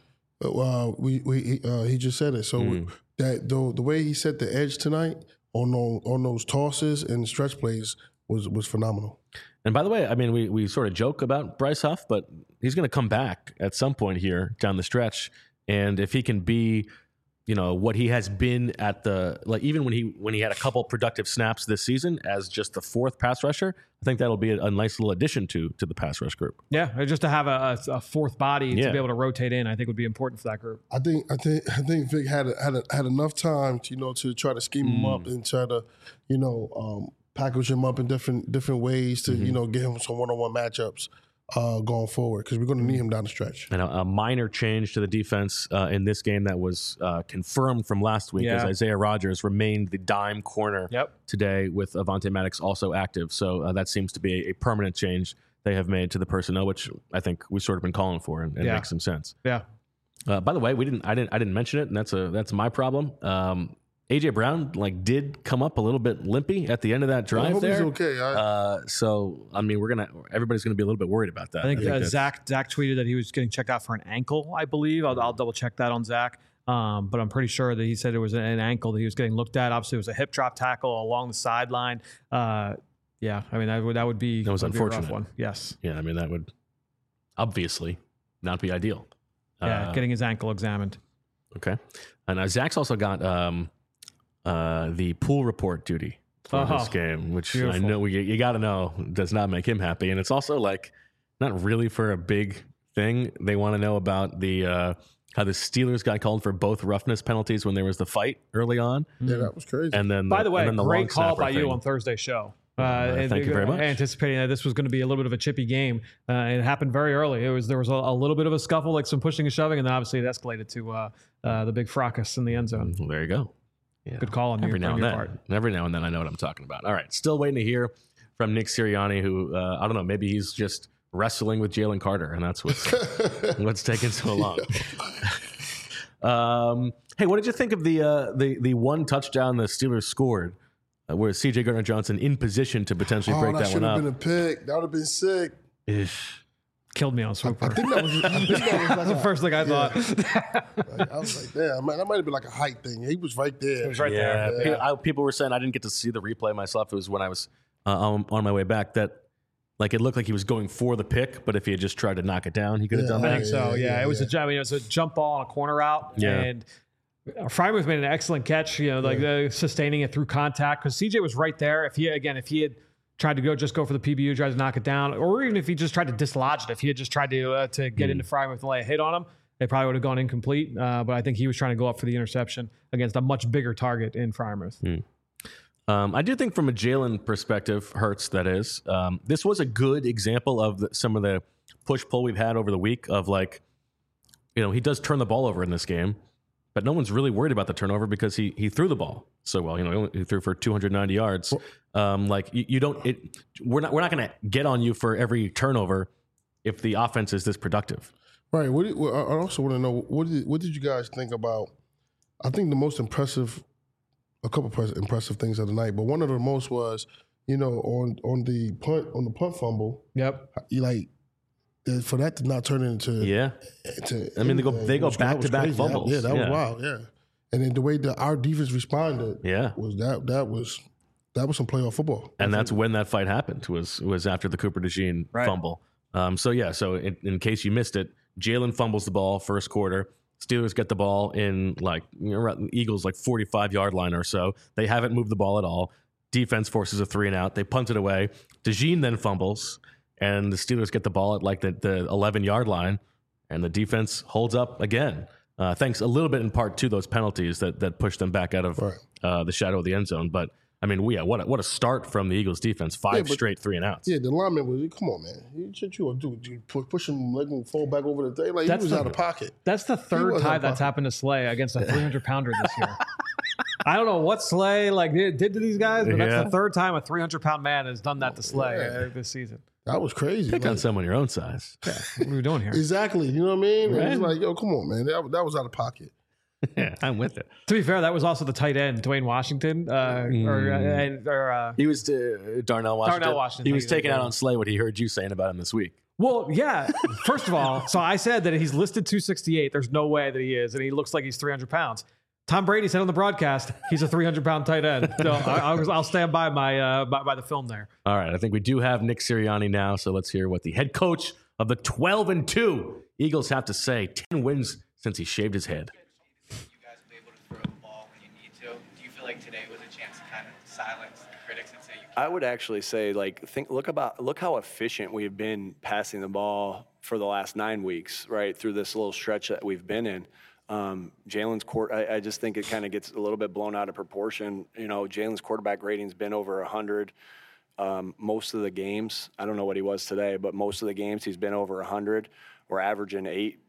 He just said it. So that the way he set the edge tonight on those tosses and stretch plays was phenomenal. And by the way, I mean, we sort of joke about Bryce Huff, but he's going to come back at some point here down the stretch. And if he can be, what he has been at even when he had a couple productive snaps this season as just the fourth pass rusher, I think that'll be a nice little addition to the pass rush group. Yeah, just to have a fourth body to be able to rotate in, I think would be important for that group. I think Vic had enough time to try to scheme him up and try to package him up in different ways to get him some one-on-one matchups going forward, because we're going to need him down the stretch. And a minor change to the defense in this game that was confirmed from last week as Isaiah Rodgers remained the dime corner today with Avonte Maddox also active. So that seems to be a permanent change they have made to the personnel, which I think we've sort of been calling for and makes some sense. Yeah. By the way, I didn't mention it, and that's my problem. AJ Brown did come up a little bit limpy at the end of that drive. I hope there. He's okay. So I mean, everybody's gonna be a little bit worried about that. I think Zach tweeted that he was getting checked out for an ankle, I believe. I'll double check that on Zach. But I'm pretty sure that he said it was an ankle that he was getting looked at. Obviously, it was a hip drop tackle along the sideline. Yeah, I mean that would be unfortunate. A rough one. Yes. Yeah, I mean that would obviously not be ideal. Yeah, getting his ankle examined. Okay, and Zach's also got the pool report duty for this game, which beautiful. I know you got to know does not make him happy, and it's also not really for a big thing. They want to know about the how the Steelers got called for both roughness penalties when there was the fight early on. Yeah, that was crazy. And then, by the way, great call by thing. You on Thursday's show. Thank you very much. Anticipating that this was going to be a little bit of a chippy game, it happened very early. There was a little bit of a scuffle, some pushing and shoving, and then obviously it escalated to the big fracas in the end zone. Well, there you go. Yeah. Good call on your part. Every now and then I know what I'm talking about. All right, still waiting to hear from Nick Sirianni, who I don't know, maybe he's just wrestling with Jalen Carter, and that's what's taking so long. Hey, what did you think of the one touchdown the Steelers scored? Where C.J. Gardner-Johnson in position to potentially break that one up. That should have been a pick. That would have been sick. Killed me on Swooper. I think that was that's the first thing I thought. I was like, damn, that might have been like a height thing. He was right there. He was right there. People were saying, I didn't get to see the replay myself. It was when I was on my way back, that Like it looked like he was going for the pick, but if he had just tried to knock it down, he could have done I that. think so. Yeah, it was a jump ball on a corner route, and Freiermuth made an excellent catch. Sustaining it through contact because CJ was right there. If he had tried to go for the PBU, tried to knock it down, or even if he just tried to dislodge it, if he had just tried to get into Freiermuth and lay a hit on him, they probably would have gone incomplete. But I think he was trying to go up for the interception against a much bigger target in Freiermuth. I do think from a Jalen perspective, Hurts, that is, this was a good example of some of the push-pull we've had over the week of he does turn the ball over in this game, but no one's really worried about the turnover because he threw the ball so well. He threw for 290 yards. We're not going to get on you for every turnover if the offense is this productive. Right. I also want to know what did you guys think about? I think the most impressive. A couple impressive things of the night, but one of the most was, on the punt fumble. Yep. For that to not turn into they go back to back fumbles. That was wild. Yeah, and then the way that our defense responded. Was that was some playoff football. And that's when that fight happened. Was after the Cooper DeJean fumble. So in case you missed it, Jalen fumbles the ball first quarter. Steelers get the ball in Eagles 45-yard line or so. They haven't moved the ball at all. Defense forces a 3-and-out. They punt it away. DeJean then fumbles, and the Steelers get the ball at the 11-yard line, and the defense holds up again. Thanks a little bit in part to those penalties that pushed them back out of the shadow of the end zone. But I mean, what a start from the Eagles defense. Five straight 3-and-outs. Yeah, the lineman was, come on, man. You push him, let him fall back over the thing. He was out of pocket. That's the third time that's happened to Slay against a 300-pounder this year. I don't know what Slay did to these guys, but that's the third time a 300-pound man has done that to Slay this season. That was crazy. Pick on someone your own size. Yeah, what are we doing here? Exactly. You know what I mean? Right? It's like, come on, man. That was out of pocket. Yeah, I'm with it. To be fair, that was also the tight end, Dwayne Washington. He was Darnell Washington. Darnell Washington. He was taking out on Slay what he heard you saying about him this week. Well, yeah. First of all, so I said that he's listed 268. There's no way that he is, and he looks like he's 300 pounds. Tom Brady said on the broadcast he's a 300-pound tight end. So I'll stand by my by the film there. All right, I think we do have Nick Sirianni now, so let's hear what the head coach of the 12-2 Eagles have to say. 10 wins since he shaved his head. Like today was a chance to kind of silence the critics and say you can't. I would actually say look how efficient we've been passing the ball for the last 9 weeks, right, through this little stretch that we've been in. Jalen's I just think it kind of gets a little bit blown out of proportion. Jalen's quarterback rating's been over 100 most of the games. I don't know what he was today, but most of the games he's been over 100. We're averaging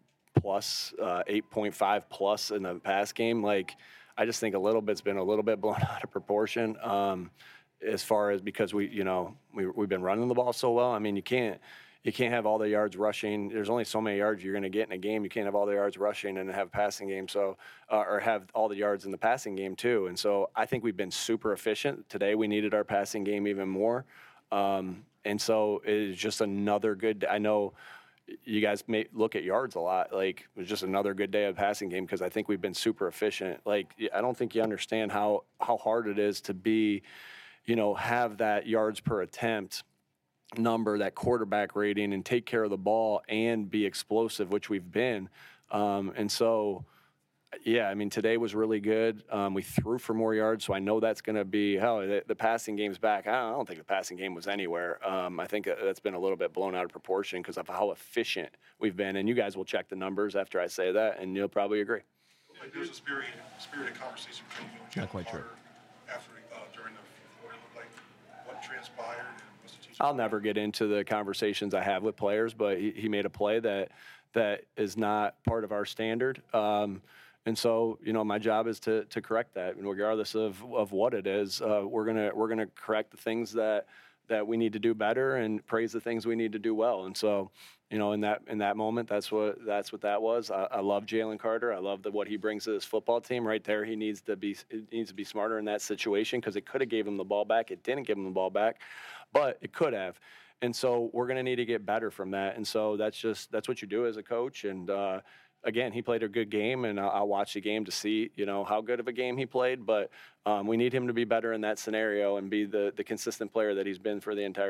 8.5 plus in the pass game. I just think it's been a little bit blown out of proportion as far as because we've been running the ball so well. I mean, you can't have all the yards rushing. There's only so many yards you're going to get in a game. You can't have all the yards rushing and have a passing game. Or have all the yards in the passing game too. And so I think we've been super efficient. Today we needed our passing game even more. And so it's just another good. I know you guys may look at yards a lot. It was just another good day of passing game because I think we've been super efficient. I don't think you understand how hard it is to be, have that yards per attempt number, that quarterback rating, and take care of the ball and be explosive, which we've been. And so, yeah, I mean, today was really good. We threw for more yards, so I know that's going to be the passing game's back. I don't think the passing game was anywhere. I think that's been a little bit blown out of proportion because of how efficient we've been. And you guys will check the numbers after I say that, and you'll probably agree. There's a spirited conversation between you and Jalen Carter after during the fourth quarter. What transpired and what's the teaching? I'll never get into the conversations I have with players, but he made a play that is not part of our standard. And so, my job is to correct that, and regardless of what it is, we're gonna correct the things that we need to do better and praise the things we need to do well. And so, in that moment, that's what that was. I love Jalen Carter. I love what he brings to this football team. Right there, he needs to be smarter in that situation because it could have gave him the ball back. It didn't give him the ball back, but it could have. And so we're gonna need to get better from that. And so that's what you do as a coach. And again, he played a good game, and I'll watch the game to see, how good of a game he played. But we need him to be better in that scenario and be the consistent player that he's been for the entire year.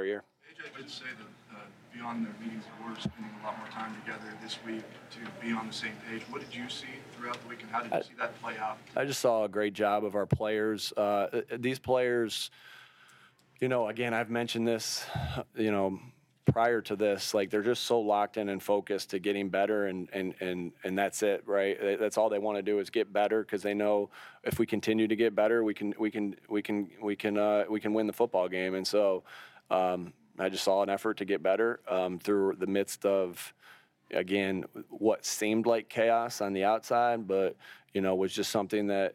AJ did say that beyond their meetings, they were spending a lot more time together this week to be on the same page. What did you see throughout the week, and how did you see that play out? I just saw a great job of our players. These players, again, I've mentioned this, prior to this, like they're just so locked in and focused to getting better, and that's it, right? That's all they want to do is get better, because they know if we continue to get better, we can win the football game. And so I just saw an effort to get better through the midst of, again, what seemed like chaos on the outside, but was just something that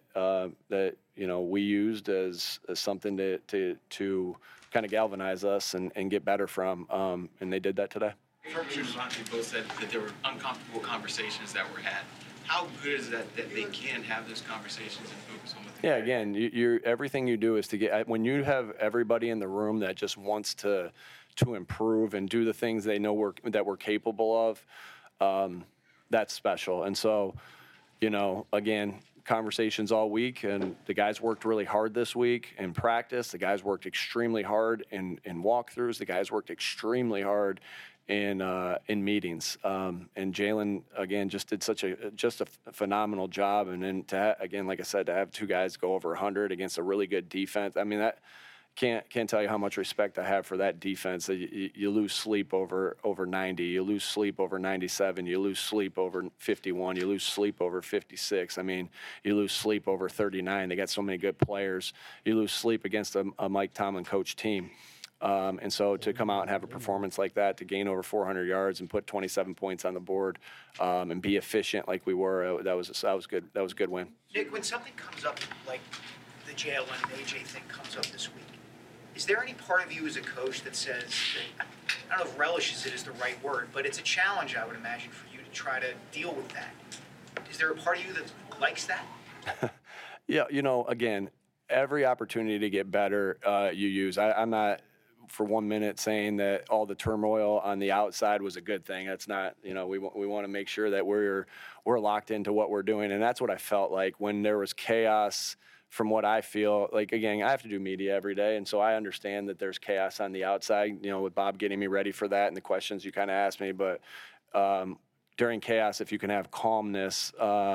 we used as something to kind of galvanize us and get better from, and they did that today. Kirby and Devontae both said that there were uncomfortable conversations that were had. How good is that they can have those conversations and focus on what they again, everything you do is to get, when you have everybody in the room that just wants to improve and do the things they know that we're capable of, that's special. And so, again, conversations all week, and the guys worked really hard this week in practice. The guys worked extremely hard in walkthroughs. The guys worked extremely hard in meetings. And Jalen, again, just did a phenomenal job. And then again, like I said, to have two guys go over 100 against a really good defense, I mean, that can't tell you how much respect I have for that defense. You lose sleep over 90, you lose sleep over 97, you lose sleep over 51, you lose sleep over 56. I mean, you lose sleep over 39. They got so many good players. You lose sleep against a Mike Tomlin coach team. And so to come out and have a performance like that, to gain over 400 yards and put 27 points on the board, and be efficient like we were, that was good. That was a good win. Nick, when something comes up like the Jalen and AJ thing comes up this week, is there any part of you as a coach that says, that, I don't know if relishes it is the right word, but it's a challenge, I would imagine, for you to try to deal with that? Is there a part of you that likes that? Yeah, again, every opportunity to get better, you use. I'm not for 1 minute saying that all the turmoil on the outside was a good thing. That's not, we want to make sure that we're locked into what we're doing. And that's what I felt like when there was chaos. From what I feel like, again, I have to do media every day, and so I understand that there's chaos on the outside, with Bob getting me ready for that and the questions you kind of asked me. But during chaos, if you can have calmness,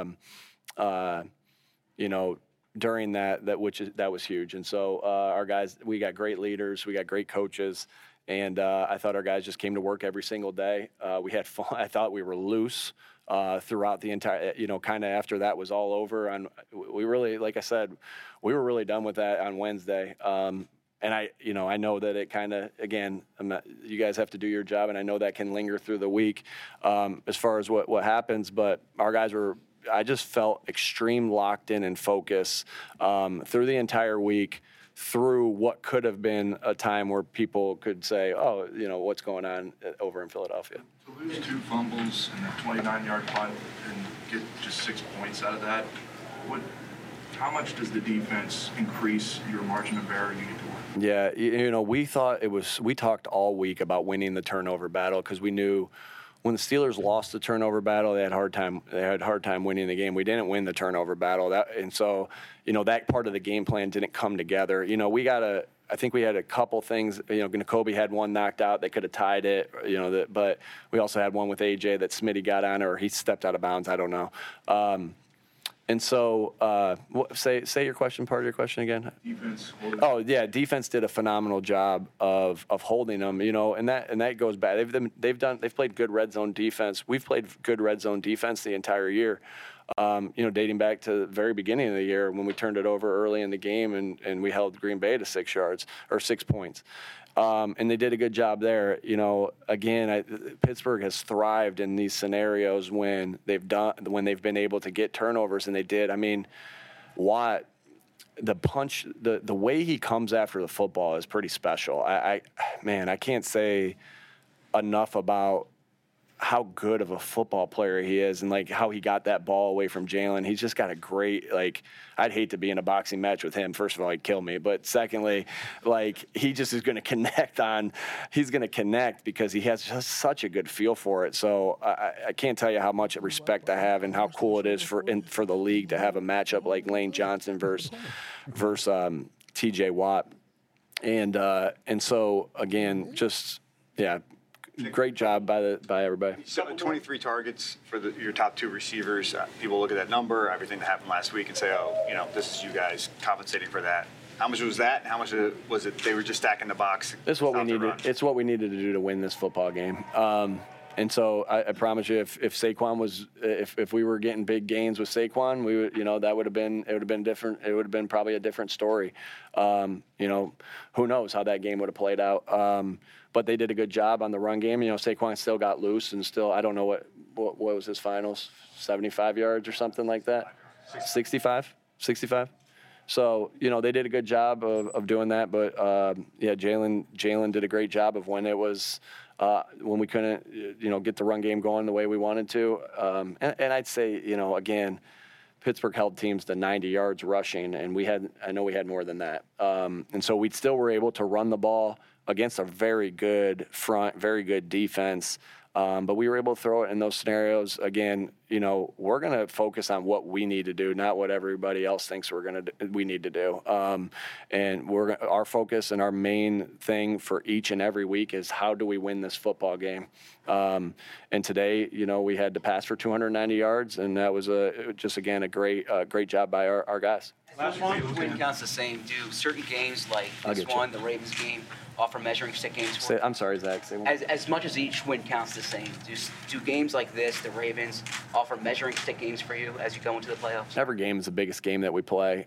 during that was huge. And so our guys, we got great leaders, we got great coaches, and I thought our guys just came to work every single day. We had fun. I thought we were loose throughout the entire, kind of after that was all over. We really, like I said, we were really done with that on Wednesday. And I know that it kind of, again, you guys have to do your job, and I know that can linger through the week as far as what happens. But our guys I just felt extreme locked in and focus through the entire week, through what could have been a time where people could say, oh, what's going on over in Philadelphia. To lose 2 fumbles and a 29-yard punt and get just 6 points out of that, how much does the defense increase your margin of error you need to win? Yeah, we talked all week about winning the turnover battle, because we knew when the Steelers lost the turnover battle, they had hard time winning the game. We didn't win the turnover battle, and so that part of the game plan didn't come together. I think we had a couple things. N'Kobe had one knocked out. They could have tied it. But we also had one with AJ that Smitty got on, or he stepped out of bounds. I don't know. And so, say your question. Part of your question again. Defense. Oh yeah, defense did a phenomenal job of holding them. And that goes back. They've played good red zone defense. We've played good red zone defense the entire year. Dating back to the very beginning of the year when we turned it over early in the game and we held Green Bay to 6 yards or 6 points. And they did a good job there. Again, Pittsburgh has thrived in these scenarios when they've been able to get turnovers, and they did. I mean, Watt, the way he comes after the football is pretty special. I can't say enough about how good of a football player he is, and like how he got that ball away from Jalen. He's just got a great, I'd hate to be in a boxing match with him. First of all, he'd kill me. But secondly, he just is going to connect because he has just such a good feel for it. So I can't tell you how much respect I have and how cool it is for the league to have a matchup like Lane Johnson versus TJ Watt. And so again, just great job by everybody. So 23 targets for your top two receivers. People look at that number, everything that happened last week, and say, "Oh, this is you guys compensating for that." How much was that? How much was it? They were just stacking the box. It's what we needed. It's what we needed to do to win this football game. And so I promise you, if Saquon was, if we were getting big gains with Saquon, we would, that would have been different. It would have been probably a different story. Who knows how that game would have played out. But they did a good job on the run game. Saquon still got loose and still, I don't know what was his finals, 75 yards or something like that. 65. So, they did a good job of doing that. But, Jalen did a great job of when it was when we couldn't, get the run game going the way we wanted to. And I'd say, again, Pittsburgh held teams to 90 yards rushing, and I know we had more than that. And so we still were able to run the ball against a very good front, very good defense. But we were able to throw it in those scenarios. Again, we're going to focus on what we need to do, not what everybody else thinks we need to do. And our focus and our main thing for each and every week is how do we win this football game? And today, we had to pass for 290 yards, and that was a great job by our guys. Last one. Win counts the same. Do certain games like this one, the Ravens game, offer measuring stick games for you? I'm sorry, Zach. Say one. As much as each win counts the same, do games like this, the Ravens, offer measuring stick games for you as you go into the playoffs? Every game is the biggest game that we play.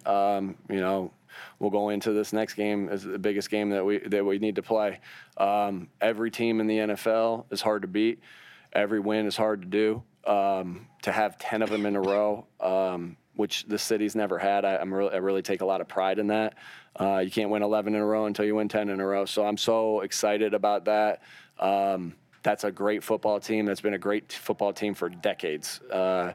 We'll go into this next game as the biggest game that we need to play. Every team in the NFL is hard to beat. Every win is hard to do. To have 10 of them in a row, which the city's never had, I really take a lot of pride in that. You can't win 11 in a row until you win 10 in a row. So I'm so excited about that. That's a great football team. That's been a great football team for decades. It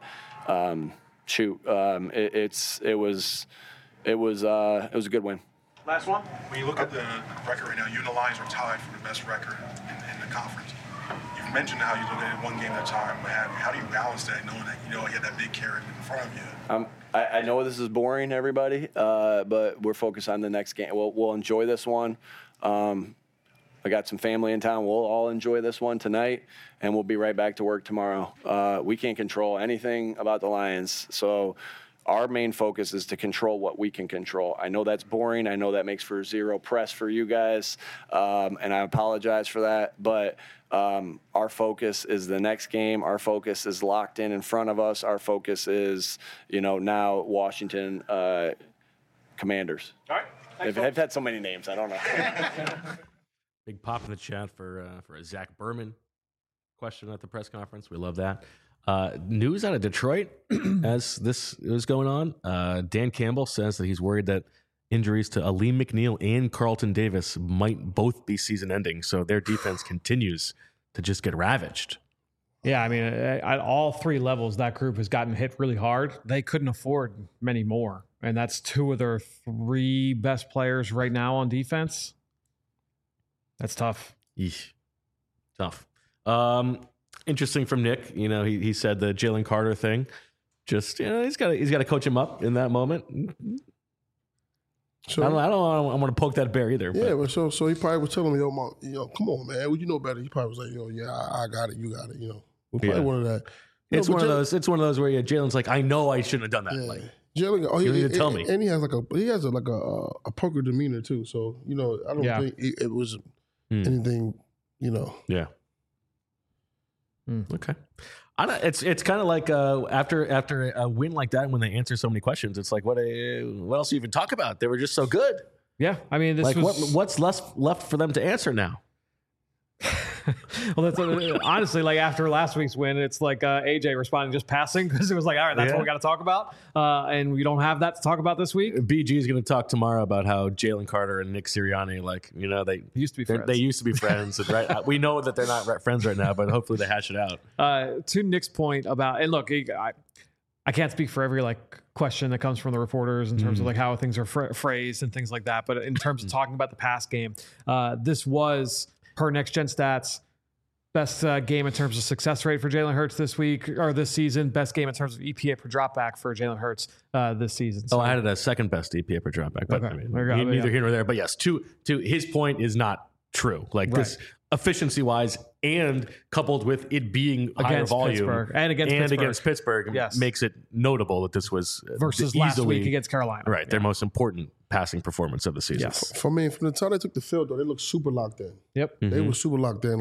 was a good win. Last one. When you look at the record right now, you and the Lions are tied for the best record in the conference. You've mentioned how you look at it one game at a time. How do you balance that, knowing that you had that big carrot in front of you? I know this is boring, everybody, but we're focused on the next game. We'll enjoy this one. I got some family in town. We'll all enjoy this one tonight, and we'll be right back to work tomorrow. We can't control anything about the Lions, so our main focus is to control what we can control. I know that's boring. I know that makes for zero press for you guys, and I apologize for that. But our focus is the next game. Our focus is locked in front of us. Our focus is, now Washington Commanders. All right. They've had so many names. I don't know. Big pop in the chat for a Zach Berman question at the press conference. We love that. News out of Detroit as this is going on. Dan Campbell says that he's worried that injuries to Aleem McNeil and Carlton Davis might both be season-ending, so their defense continues to just get ravaged. Yeah, I mean, at all three levels, that group has gotten hit really hard. They couldn't afford many more, and that's two of their three best players right now on defense. That's tough. Eesh. Tough. Interesting from Nick. He said the Jalen Carter thing. Just he's got to coach him up in that moment. So I don't want to poke that bear either. Yeah, but so he probably was telling me, come on, man, you know better. He probably was like, yeah, I got it, you got it. Probably one of that. It's one of those. It's one of those where Jalen's like, I know I shouldn't have done that. Yeah. Like, Jalen, you need to tell me. And he has a poker demeanor too. So I don't think it was anything. Yeah. Okay. It's kind of like after a win like that, when they answer so many questions, it's like what else do you even talk about? They were just so good. Yeah, I mean, what's left for them to answer now? Well, that's honestly, like after last week's win, it's like AJ responding just passing, because it was like, all right, that's what we got to talk about, and we don't have that to talk about this week. BG is going to talk tomorrow about how Jalen Carter and Nick Sirianni, they used to be friends. They used to be friends, and right? We know that they're not friends right now, but hopefully they hash it out. To Nick's point about, and look, I can't speak for every question that comes from the reporters in terms of how things are phrased and things like that, but in terms of talking about the past game, this was per Next Gen Stats Best game in terms of success rate for Jalen Hurts this week or this season. Best game in terms of EPA per dropback for Jalen Hurts this season. So I had it as second best EPA per dropback, but Okay. I mean, There you go. neither Yeah. here nor there. But yes, to his point is not true. Like this efficiency wise, and coupled with it being higher Against volume Pittsburgh. And against Pittsburgh, Yes. makes it notable that this was versus easily, last week against Carolina. right, their most important passing performance of the season. Yes. For me, from the time they took the field, though, they looked super locked in. Yep. They were super locked in.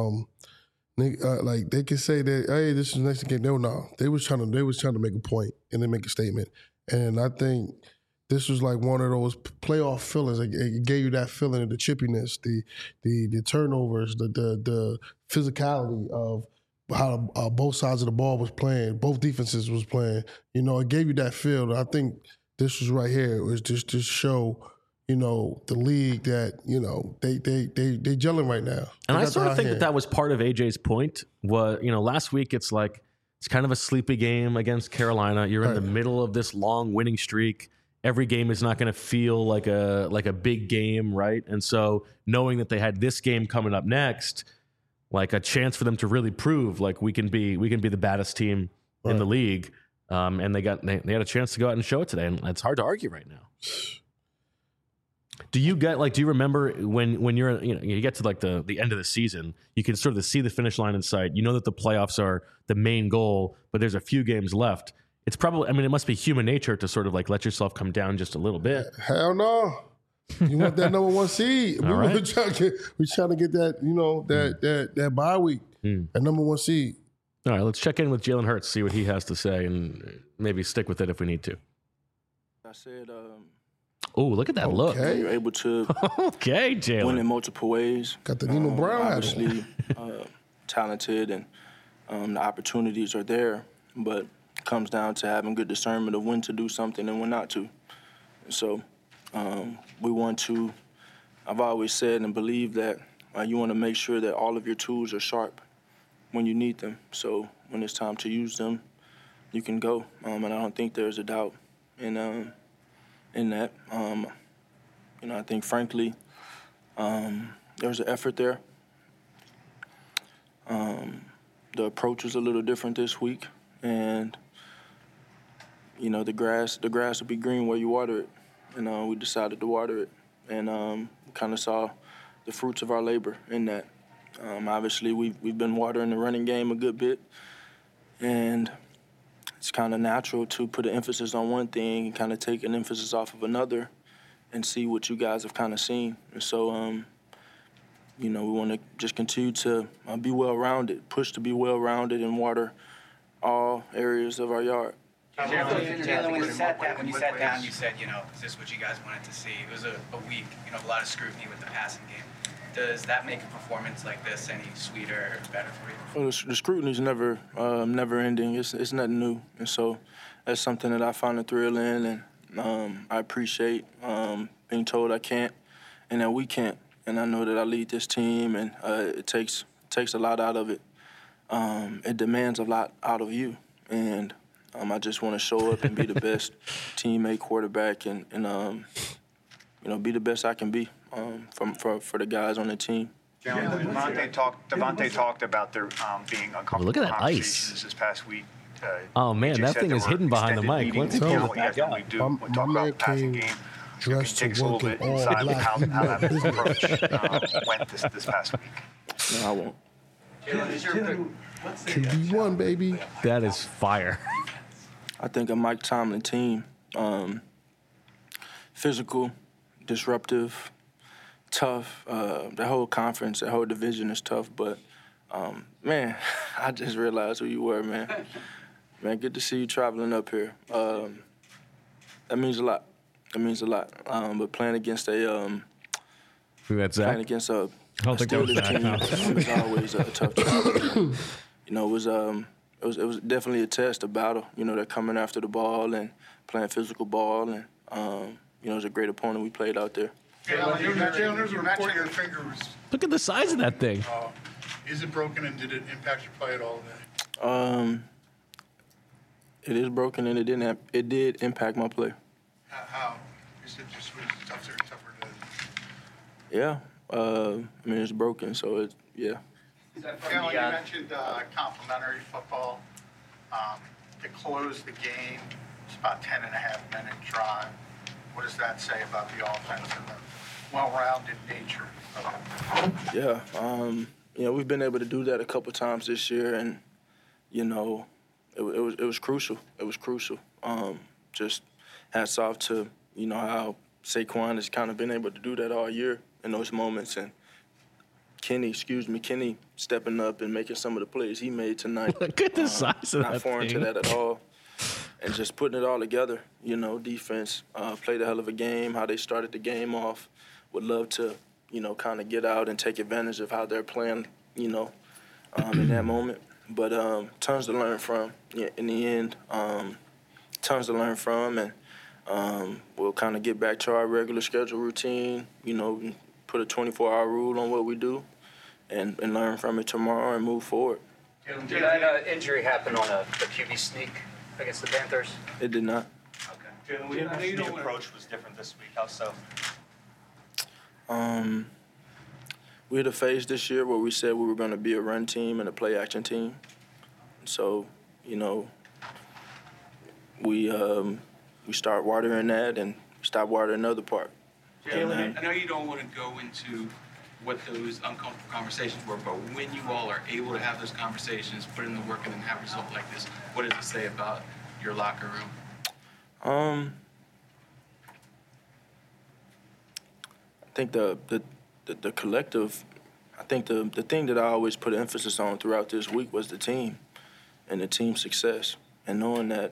Like they could say that, hey, this is the next game. No, they was trying to make a point and then make a statement. And I think this was like one of those playoff feelings. It gave you that feeling of the chippiness, the turnovers, the physicality of how both sides of the ball was playing, both defenses was playing. You know, it gave you that feel. And I think this was right here. It was just to show, you know, the league that, you know, they gelling right now. And They I got sort the of hot think hand. that was part of AJ's point. Was, you know, last week it's like it's kind of a sleepy game against Carolina. You're in the middle of this long winning streak. Every game is not going to feel like a big game, right? And so knowing that they had this game coming up next, like a chance for them to really prove like we can be the baddest team in the league, and they had a chance to go out and show it today, and it's hard to argue right now. Do you remember when you're, you know, you get to like the end of the season, you can sort of see the finish line in sight. You know that the playoffs are the main goal, but there's a few games left. It's probably, I mean, it must be human nature to sort of like let yourself come down just a little bit. Hell no. You want that number one seed. All right. We're trying to get that, you know, that bye week, that number one seed. All right, let's check in with Jalen Hurts, see what he has to say, and maybe stick with it if we need to. I said, Oh, look at that look. Okay. you're able to Okay, win in Jalen. multiple ways. Got the Nino Brown hat on. Obviously, talented and the opportunities are there, but it comes down to having good discernment of when to do something and when not to. And so we want to, I've always said and believed that you want to make sure that all of your tools are sharp when you need them. So when it's time to use them, you can go. And I don't think there's a doubt in that. You know, I think, frankly, there's an effort there. The approach was a little different this week, and you know, the grass will be green where you water it, and we decided to water it, and we kind of saw the fruits of our labor in that. Obviously, we've been watering the running game a good bit, and it's kind of natural to put an emphasis on one thing and kind of take an emphasis off of another and see what you guys have kind of seen. And so, you know, we want to just continue to be well-rounded, push to be well-rounded and water all areas of our yard. Jalen, when you sat down, you said, you know, is this what you guys wanted to see? It was a week, you know, a lot of scrutiny with the passing game. Does that make a performance like this any sweeter or better for you? Well, the scrutiny's never ending. It's nothing new, and so that's something that I find a thrill in, and I appreciate being told I can't and that we can't. And I know that I lead this team, and it takes a lot out of it. It demands a lot out of you, and I just want to show up and be the best teammate, quarterback, and you know, be the best I can be for the guys on the team. Devontae talked about there being uncomfortable Look at that ice. conversations this past week. Oh, man, AJ that said thing there is were hidden behind the extended mic. meetings. Let's You pull know, it you guys back out. normally do. My We talk man about the passing came game. dressed Take us to a little work in bit all inside black. how that approach went this past week. No, I won't. QB1, baby. That is fire. I think a Mike Tomlin team, physical, disruptive, tough. The whole conference, the whole division is tough. But, man, I just realized who you were, man. Man, good to see you traveling up here. That means a lot. That means a lot. But playing against a That's Zach. playing against a I'll take that Steelers back. team is always a tough challenge. You know, it was definitely a test, a battle. You know, they're coming after the ball and playing physical ball, and you know, it was a great opponent we played out there. Jalen, there's a report your finger was, Look at the size of that thing. is it broken and did it impact your play at all today? It is broken, and it did impact my play. How? Is it just tougher to? Yeah, I mean, it's broken, so yeah. Jalen, you mentioned complimentary football. To close the game, it's about 10.5-minute drive. What does that say about the offense and the well-rounded nature of it? Yeah, we've been able to do that a couple times this year, and it was crucial. It was crucial. Just hats off to how Saquon has kind of been able to do that all year in those moments, and Kenny stepping up and making some of the plays he made tonight. Look at the size of not that foreign thing. to that at all. And just putting it all together, defense played a hell of a game, how they started the game off. Would love to, kind of get out and take advantage of how they're playing, in that moment. But tons to learn from in the end. Tons to learn from, and we'll kind of get back to our regular schedule routine, put a 24-hour rule on what we do and learn from it tomorrow and move forward. Did that injury happen on a QB sneak against the Panthers? It did not. Okay. Jalen, I know the approach was different this week. How so? We had a phase this year where we said we were going to be a run team and a play-action team. So, we start watering that and stop watering another part. Jalen, I know you don't want to go into what those uncomfortable conversations were, but when you all are able to have those conversations, put in the work, and then have a result like this, what does it say about your locker room? I think the collective, I think the thing that I always put emphasis on throughout this week was the team and the team success, and knowing that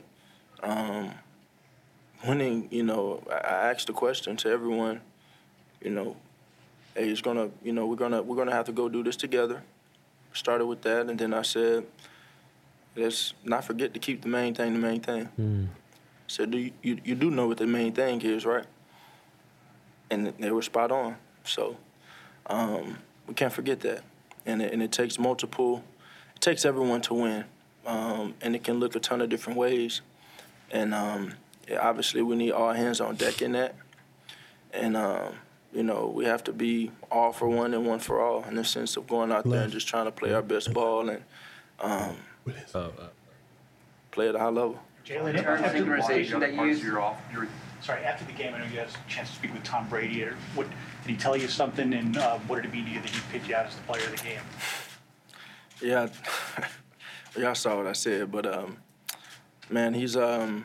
winning, I asked the question to everyone, hey, it's gonna, we're gonna have to go do this together. Started with that, and then I said, let's not forget to keep the main thing the main thing. Said, you do know what the main thing is, right? And they were spot on. So we can't forget that. And it takes multiple, it takes everyone to win. And it can look a ton of different ways. And obviously we need all hands on deck in that. And, we have to be all for one and one for all in the sense of going out there and just trying to play our best ball and play at a high level. Jalen, after the organization that you used. After the game, I know you had a chance to speak with Tom Brady. What did he tell you something, and what did it mean to you that he picked you out as the player of the game? Yeah, y'all saw what I said, but man, he's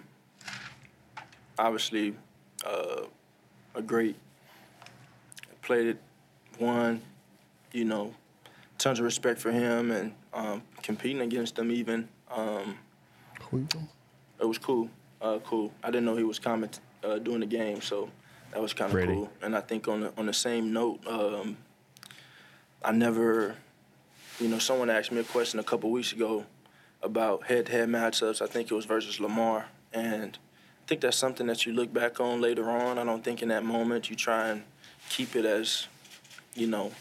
obviously a great. Played it, won, tons of respect for him, and competing against him even. It was cool. Cool. I didn't know he was coming during the game, so that was kind of cool. And I think on the same note, I never, someone asked me a question a couple weeks ago about head-to-head matchups. I think it was versus Lamar, and I think that's something that you look back on later on. I don't think in that moment you try and keep it as, because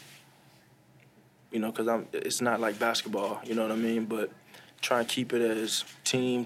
it's not like basketball, you know what I mean? But try and keep it as team,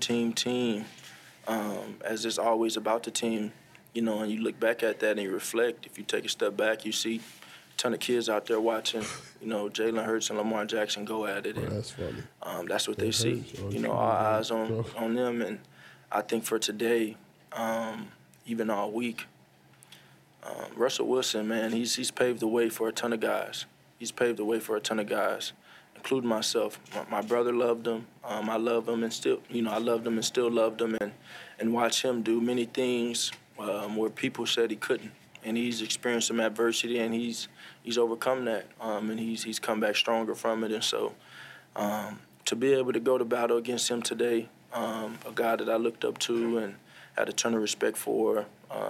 as it's always about the team, and you look back at that and you reflect. If you take a step back, you see a ton of kids out there watching, Jalen Hurts and Lamar Jackson go at it. And, that's funny. That's what they see, all eyes on them. And I think for today, even all week, Russell Wilson, man, he's paved the way for a ton of guys. He's paved the way for a ton of guys, including myself. My brother loved him. I love him and still, I loved him and still loved him, and watch him do many things where people said he couldn't. And he's experienced some adversity, and he's overcome that, and he's come back stronger from it. And so to be able to go to battle against him today, a guy that I looked up to and had a ton of respect for,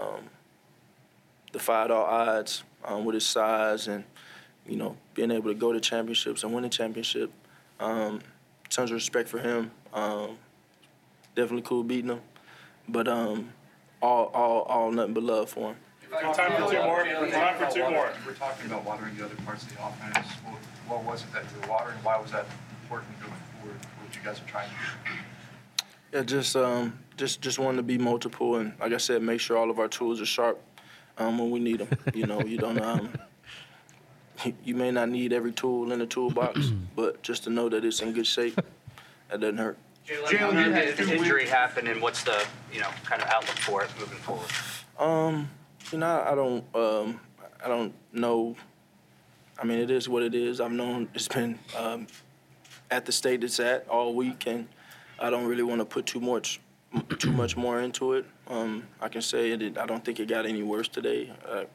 defied all odds with his size and, being able to go to championships and win a championship. Tons of respect for him. Definitely cool beating him. But all nothing but love for him. Time for two more. Time for two more. We're talking about watering the other parts of the offense. What was it that you were watering? Why was that important going forward for what you guys are trying to do? Yeah, just wanting to be multiple and, like I said, make sure all of our tools are sharp when we need them. You don't you may not need every tool in the toolbox, but just to know that it's in good shape, that doesn't hurt. Jalen, how did the injury happen, and what's the kind of outlook for it moving forward? I don't know. I mean, it is what it is. I've known it's been at the state it's at all week, and I don't really want to put too much more into it. I can say it. I don't think it got any worse today.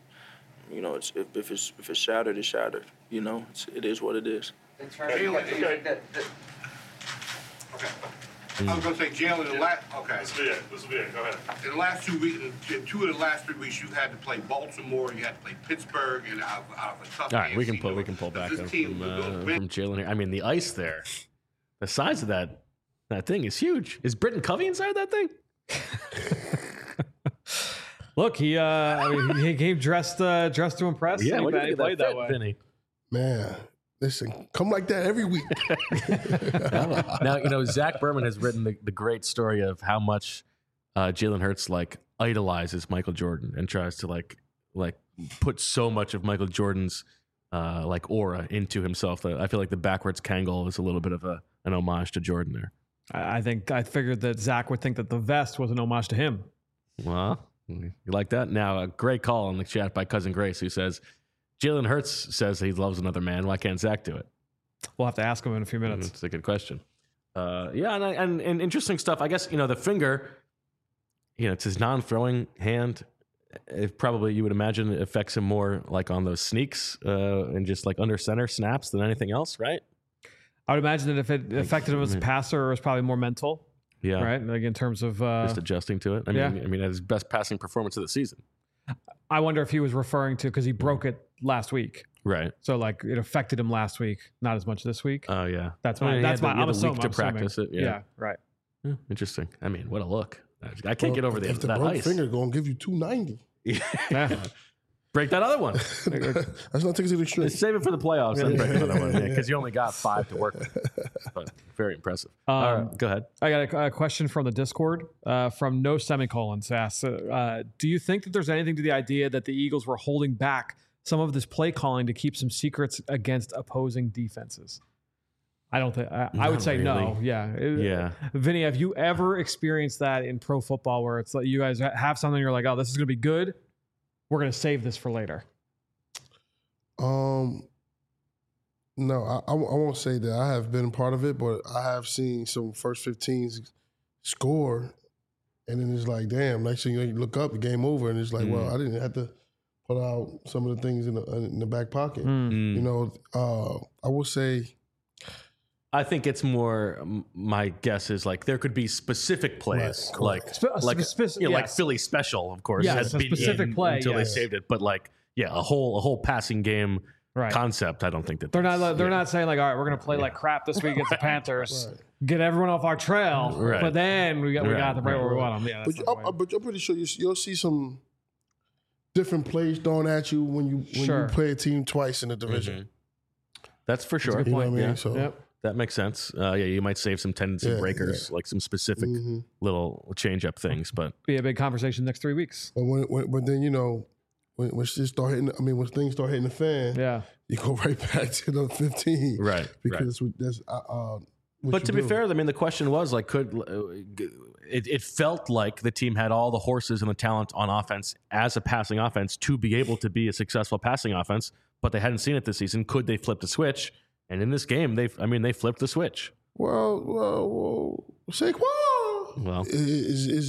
If it's shattered, it's shattered. It is what it is. I was going to say, Jalen, This will be it. Go ahead. In the last 2 weeks, 2 of the last 3 weeks, you had to play Baltimore, you had to play Pittsburgh, and out of a tough. All right, we can pull back from Jalen here. I mean, the ice there, the size of that thing is huge. Is Britton Covey inside that thing? Look, he came dressed to impress. Yeah, what do you played that way, Vinny? Man. Listen, come like that every week. Now, Zach Berman has written the great story of how much Jalen Hurts idolizes Michael Jordan and tries to like put so much of Michael Jordan's aura into himself. I feel like the backwards Kangol is a little bit of an homage to Jordan there. I figured that Zach would think that the vest was an homage to him. Well, you like that? Now, a great call in the chat by Cousin Grace who says, Jalen Hurts says he loves another man. Why can't Zach do it? We'll have to ask him in a few minutes. It's a good question. And interesting stuff. I guess, the finger, it's his non-throwing hand. It probably, you would imagine, it affects him more like on those sneaks and just like under center snaps than anything else, right? I would imagine that if it affected him as a passer, it was probably more mental. Yeah. Right? Like in terms of... just adjusting to it. I mean, at his best passing performance of the season. I wonder if he was referring to, because he broke it last week. Right. So it affected him last week, not as much this week. Oh yeah. I'm assuming. To practice it. Yeah. Right. Yeah, interesting. I mean, what a look. I can't get over if the that broke ice. finger going to give you 290. Yeah. Break that other one. That's not taking it to the extreme. Save it for the playoffs. Then break another one. Because you only got 5 to work with. But very impressive. All right, go ahead. I got a question from the Discord from No Semicolons. Asks, do you think that there's anything to the idea that the Eagles were holding back some of this play calling to keep some secrets against opposing defenses? I don't think. I would say really. no. Yeah. Yeah. Vinny, have you ever experienced that in pro football where it's like you guys have something, you're like, oh, this is going to be good. We're going to save this for later. No, I won't say that I have been part of it, but I have seen some first 15s score, and then it's like, damn, next thing you look up, the game over, and it's like, well, I didn't have to put out some of the things in the back pocket. I will say... I think it's more. My guess is there could be specific plays, like Philly special, of course. Yeah, specific play until they saved it. But a whole passing game concept. I don't think that they're not saying all right, we're going to play like crap this week against the Panthers, get everyone off our trail, but then we got the right where we want them. Yeah, but I'm pretty sure you'll see some different plays thrown at you when you play a team twice in the division. Mm-hmm. That's for sure. You know what I mean? So. That makes sense. You might save some tendency breakers, like some specific little change-up things, but be a big conversation next 3 weeks. But when then when shit start hitting, when things start hitting the fan, you go right back to the 15, right? Because that's but to be fair, I mean, the question was it felt like the team had all the horses and the talent on offense as a passing offense to be able to be a successful passing offense, but they hadn't seen it this season. Could they flip the switch? And in this game, they flipped the switch. Well, Saquon he's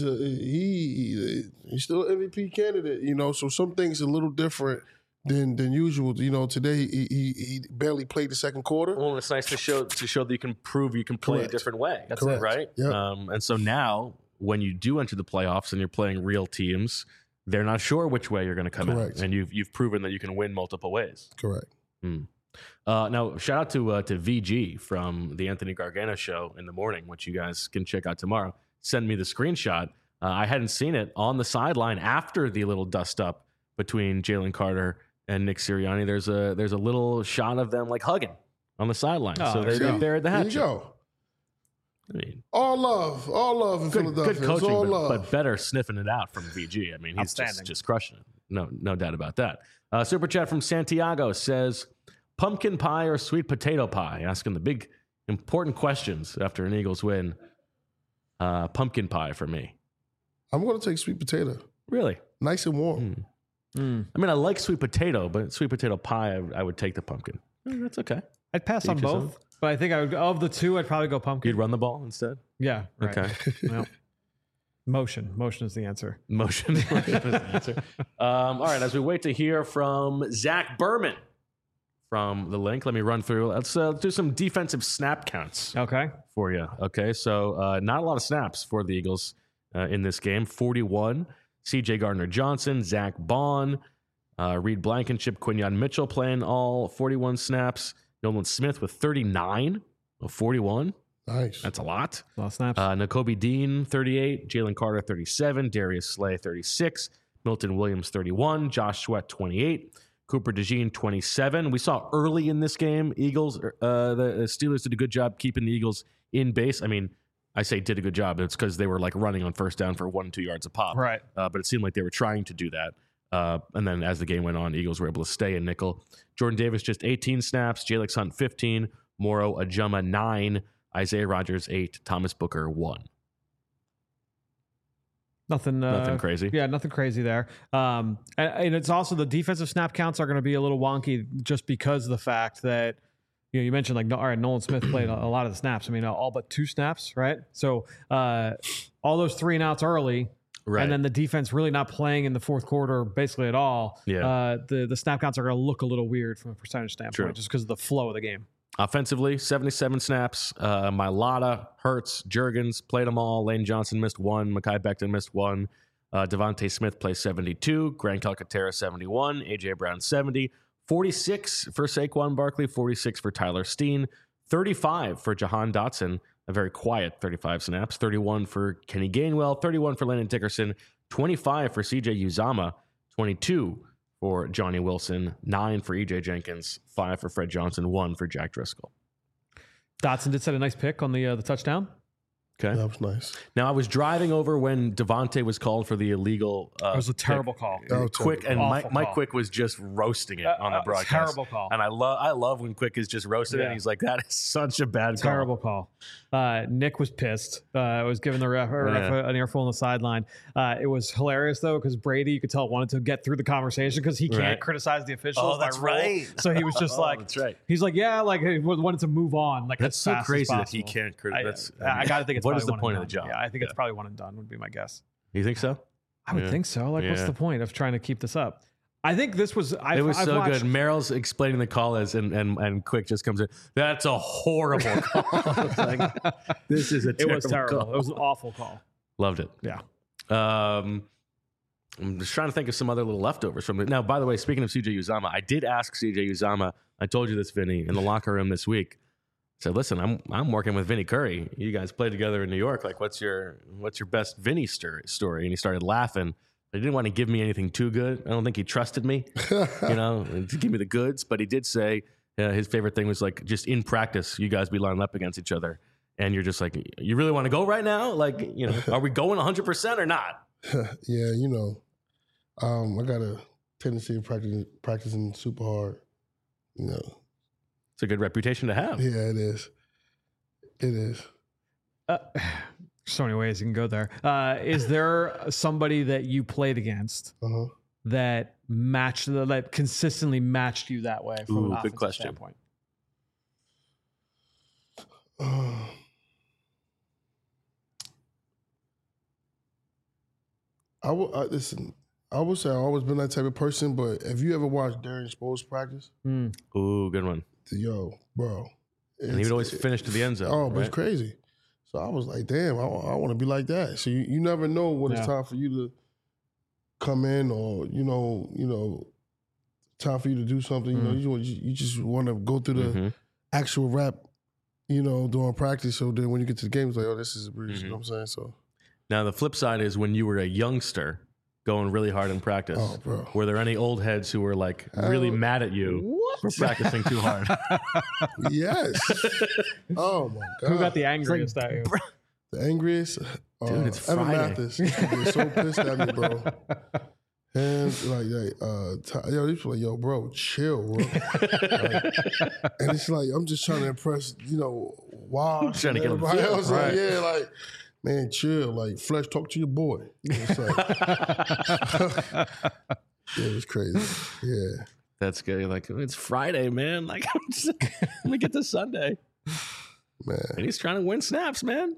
still an MVP candidate, so some things are a little different than usual. Today he barely played the second quarter. Well, it's nice to show that you can prove you can play a different way. That's it, right? Yep. And so now, when you do enter the playoffs and you're playing real teams, they're not sure which way you're going to come out, and you've proven that you can win multiple ways. Correct. Now, shout out to VG from the Anthony Gargano show in the morning, which you guys can check out tomorrow. Send me the screenshot. I hadn't seen it on the sideline after the little dust up between Jalen Carter and Nick Sirianni. There's a little shot of them hugging on the sideline. So they buried the hatchet. There you go. I mean, all love in Philadelphia. Good coaching, all love. but better sniffing it out from VG. I mean, he's just crushing it. No doubt about that. Super chat from Santiago says, pumpkin pie or sweet potato pie? Asking the big, important questions after an Eagles win. Pumpkin pie for me. I'm going to take sweet potato. Really? Nice and warm. I mean, I like sweet potato, but sweet potato pie, I would take the pumpkin. That's okay. I'd pass on Each his both, own. but I think I would. Of the two, I'd probably go pumpkin. You'd run the ball instead? Yeah. Right. Okay. Well, motion is the answer. Motion is the answer. All right, as we wait to hear from Zach Berman from the link, let me run through. Let's do some defensive snap counts. Okay. For you. Okay, so not a lot of snaps for the Eagles in this game. 41. C.J. Gardner-Johnson, Zach Bond, Reed Blankenship, Quinyon Mitchell playing all 41 snaps. Nolan Smith with 39 of 41. Nice. That's a lot. A lot of snaps. Nakobe Dean, 38. Jalen Carter, 37. Darius Slay, 36. Milton Williams, 31. Josh Sweat, 28. Cooper DeJean, 27. We saw early in this game, the Steelers did a good job keeping the Eagles in base. I mean, I say did a good job. It's because they were like running on first down for 1 and 2 yards a pop. Right. But it seemed like they were trying to do that. And then as the game went on, Eagles were able to stay in nickel. Jordan Davis, just 18 snaps. Jalex Hunt, 15. Moro Ajuma, 9. Isaiah Rodgers, 8. Thomas Booker, 1. Nothing crazy. Yeah, nothing crazy there. And it's also the defensive snap counts are going to be a little wonky just because of the fact that you mentioned like all right, Nolan Smith played a lot of the snaps. I mean, all but 2 snaps, right? So all those 3 and outs early. Right. And then the defense really not playing in the fourth quarter basically at all. Yeah. The snap counts are going to look a little weird from a percentage standpoint just because of the flow of the game. Offensively, 77 snaps. Mailata, Hurts, Juergens played them all. Lane Johnson missed 1. Mekhi Becton missed 1. Devontae Smith plays 72. Grant Calcaterra 71. A.J. Brown 70. 46 for Saquon Barkley. 46 for Tyler Steen. 35 for Jahan Dotson. A very quiet 35 snaps. 31 for Kenny Gainwell. 31 for Landon Dickerson. 25 for C.J. Uzomah. 22 for Johnny Wilson. 9 for E.J. Jenkins. 5 for Fred Johnson. 1 for Jack Driscoll. Dotson did set a nice pick on the touchdown. Okay. That was nice. Now, I was driving over when Devontae was called for the illegal it was a terrible call. Quick and Mike Quick was just roasting it on the broadcast. Terrible call. And I love when Quick is just roasting it. And he's like, that is such a bad call. Terrible call. Nick was pissed. Was giving the ref an earful on the sideline. It was hilarious, though, because Brady, you could tell, wanted to get through the conversation because he can't criticize the officials. Oh, that's right. So he was just that's right. He's like, yeah, like he wanted to move on. Like that's so crazy that he possible. can't criticize. I got to think it's what probably is the one point and of the done. job? Yeah, I think it's probably one and done would be my guess. You think so? I would think so. Like, what's the point of trying to keep this up? I think this was. It was so good. Merrill's explaining the call as, and Quick just comes in. That's a horrible call. Like, this is a terrible. It was terrible. Call. It was an awful call. Loved it. Yeah. I'm just trying to think of some other little leftovers from it. Now, by the way, speaking of C.J. Uzomah, I did ask C.J. Uzomah. I told you this, Vinny, in the locker room this week. I said, listen, I'm working with Vinny Curry. You guys played together in New York. Like, what's your best Vinny story? And he started laughing. He didn't want to give me anything too good. I don't think he trusted me, to give me the goods. But he did say his favorite thing was like just in practice, you guys be lined up against each other, and you're just like, you really want to go right now? Like, are we going 100% or not? Yeah, I got a tendency of practicing super hard. It's a good reputation to have. Yeah, it is. It is. So many ways you can go there. Is there somebody that you played against that consistently matched you that way from an offensive standpoint? Listen, I would say I've always been that type of person, but have you ever watched Darren Sproles practice? Ooh, good one. Yo, bro. And he would always finish to the end zone. Oh, but it's crazy. So I was like, damn, I want to be like that. So you never know when it's time for you to come in or, time for you to do something. You just want to go through the actual rap, during practice. So then when you get to the game, it's like, oh, this is a breeze. You know what I'm saying? So now the flip side is when you were a youngster going really hard in practice. Oh, bro. Were there any old heads who were like really mad at you for practicing too hard? Yes. Oh my God. Who got the angriest at you? The angriest? Dude, it's Evan Friday. Mathis. He was so pissed at me, bro. And yo, he's like, yo, bro, chill, bro. And it's like, I'm just trying to impress, Wash Trying to get him everybody feel, else. right. Like, yeah, like, man, chill. Like, Flesh, talk to your boy. It's like, yeah, it was crazy. Yeah. That's good. You're like, it's Friday, man. Like, let me get to Sunday. Man. And he's trying to win snaps, man.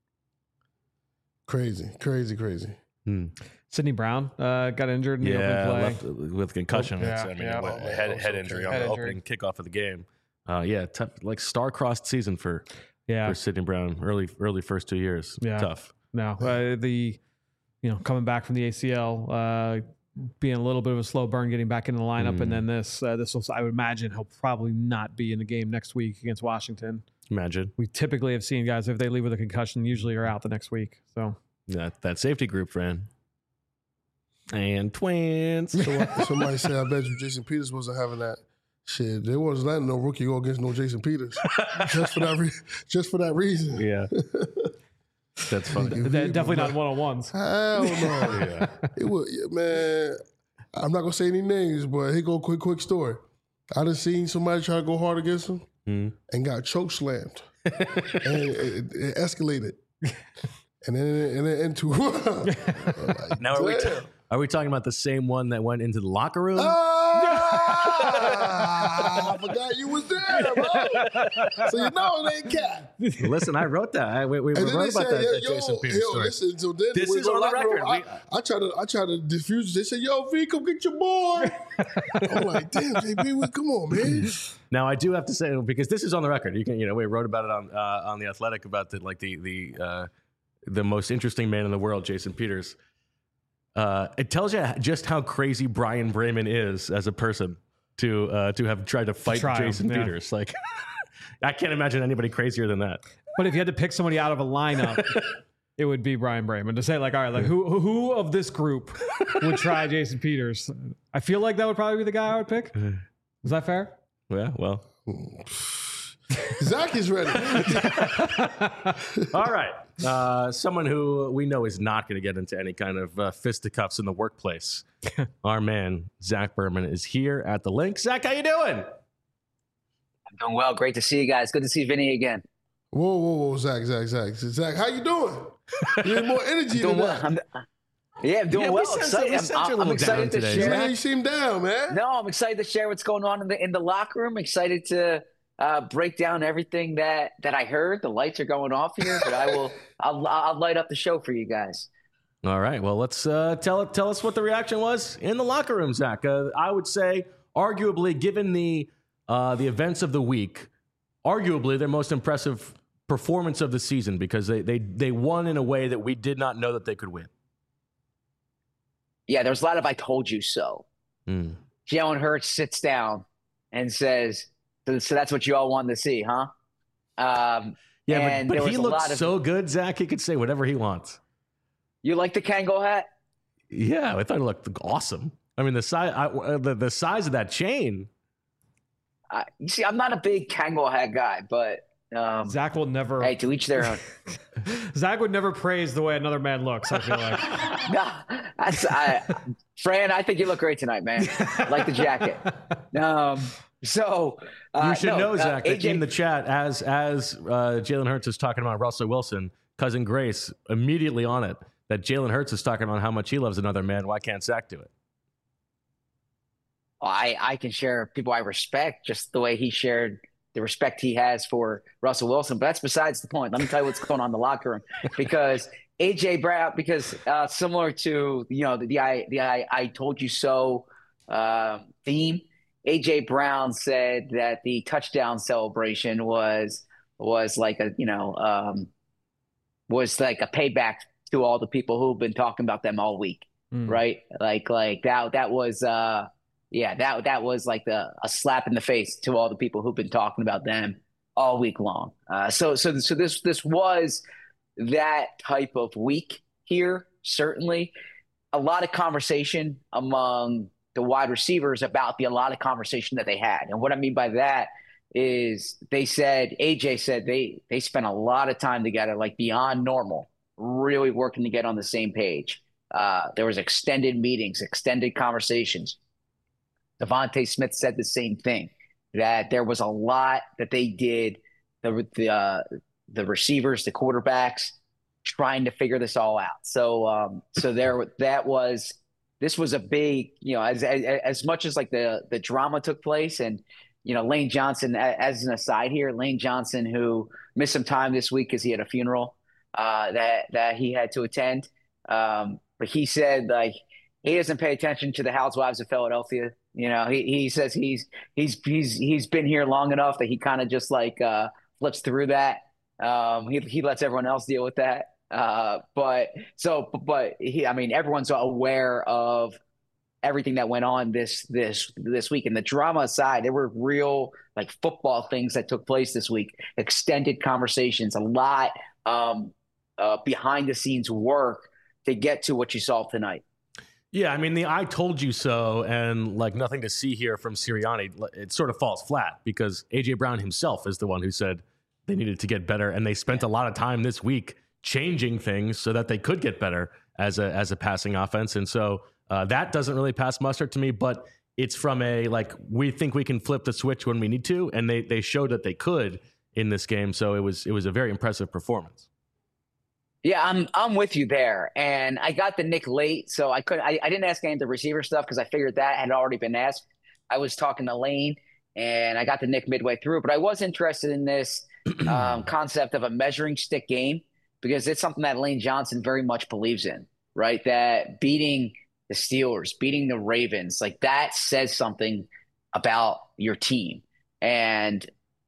Crazy. Sidney Brown got injured in the opening play. Left with concussion. Head injury on the Head opening kickoff of the game. Tough, like star-crossed season for Sidney Brown. Early first 2 years. Yeah. Tough. No, coming back from the ACL, being a little bit of a slow burn, getting back into the lineup, and then this will, I would imagine he'll probably not be in the game next week against Washington. Imagine. We typically have seen guys, if they leave with a concussion, usually are out the next week. So that safety group, friend. And twins. Somebody said, I bet you Jason Peters wasn't having that shit. There wasn't letting no rookie go against no Jason Peters. just for that reason. Yeah. That's funny. Definitely not one-on-ones. Hell no. It was, man, I'm not going to say any names, but here go a quick story. I done seen somebody try to go hard against him and got choke slammed. And it escalated. And then into like, now are we talking about the same one that went into the locker room? I forgot you was there, bro. So you know it ain't cat. Listen, I wrote that. We wrote about that Jason Peters story. Listen, so then This is on the record. I try to diffuse it. They said, yo, V, come get your boy. I'm like, damn, JP, come on, man. Now I do have to say, because this is on the record. You can, we wrote about it on the Athletic about the most interesting man in the world, Jason Peters. It tells you just how crazy Brian Bremen is as a person to have tried to fight Jason Peters. Like, I can't imagine anybody crazier than that. But if you had to pick somebody out of a lineup, it would be Brian Bremen. To say, like, all right, like who of this group would try Jason Peters? I feel like that would probably be the guy I would pick. Is that fair? Yeah, well. Zach is ready. All right. Someone who we know is not going to get into any kind of fisticuffs in the workplace. Our man, Zach Berman, is here at the link. Zach, how you doing? I'm doing well. Great to see you guys. Good to see Vinny again. Whoa, Zach, how you doing? You need more energy than that. I'm doing well. I'm excited to share. Yeah, you seem down, man. No, I'm excited to share what's going on in the locker room. Excited to break down everything that I heard. The lights are going off here, but I'll light up the show for you guys. All right. Well, let's tell us what the reaction was in the locker room, Zach. I would say, arguably, given the events of the week, arguably their most impressive performance of the season, because they won in a way that we did not know that they could win. Yeah, there's a lot of I told you so. Jalen Hurts sits down and says, so that's what you all wanted to see, huh? But he looks so good, Zach. He could say whatever he wants. You like the Kangol hat? Yeah, I thought it looked awesome. I mean, the size of that chain. You see, I'm not a big Kangol hat guy, but Zach will never. Hey, to each their own. Zach would never praise the way another man looks, I feel like. Fran, I think you look great tonight, man. I like the jacket. You should know, Zach, that in the chat, as Jalen Hurts is talking about Russell Wilson, cousin Grace immediately on it, that Jalen Hurts is talking about how much he loves another man. Why can't Zach do it? I can share people I respect, just the way he shared the respect he has for Russell Wilson. But that's besides the point. Let me tell you what's going on in the locker room. Because A.J. Brown, similar to the I told you so theme, A.J. Brown said that the touchdown celebration was like a payback to all the people who've been talking about them all week, right? Like that was that was like a slap in the face to all the people who've been talking about them all week long. So this was that type of week here. Certainly, a lot of conversation among the wide receivers about a lot of conversation that they had. And what I mean by that is AJ said they spent a lot of time together, like beyond normal, really working to get on the same page. There was extended meetings, extended conversations. Devontae Smith said the same thing, that there was a lot that they did, the receivers, the quarterbacks, trying to figure this all out. So this was a big, as much as like the drama took place, and Lane Johnson, as an aside here, Lane Johnson, who missed some time this week because he had a funeral that he had to attend. But he said, like, he doesn't pay attention to the Housewives of Philadelphia. He says he's been here long enough that he kind of just like flips through that. He lets everyone else deal with that. But everyone's aware of everything that went on this week. And the drama aside, there were real like football things that took place this week, extended conversations, a lot behind the scenes work to get to what you saw tonight. Yeah, I mean, the "I told you so" and like nothing to see here from Sirianni, it sort of falls flat because A.J. Brown himself is the one who said they needed to get better, and they spent a lot of time this week changing things so that they could get better as a passing offense. And so that doesn't really pass muster to me, but it's from a, like, we think we can flip the switch when we need to, and they showed that they could in this game. So it was a very impressive performance. Yeah, I'm with you there. And I got the Nick late, so I didn't ask any of the receiver stuff because I figured that had already been asked. I was talking to Lane, and I got the Nick midway through. But I was interested in this concept of a measuring stick game because it's something that Lane Johnson very much believes in, right? That beating the Steelers, beating the Ravens, like that says something about your team. And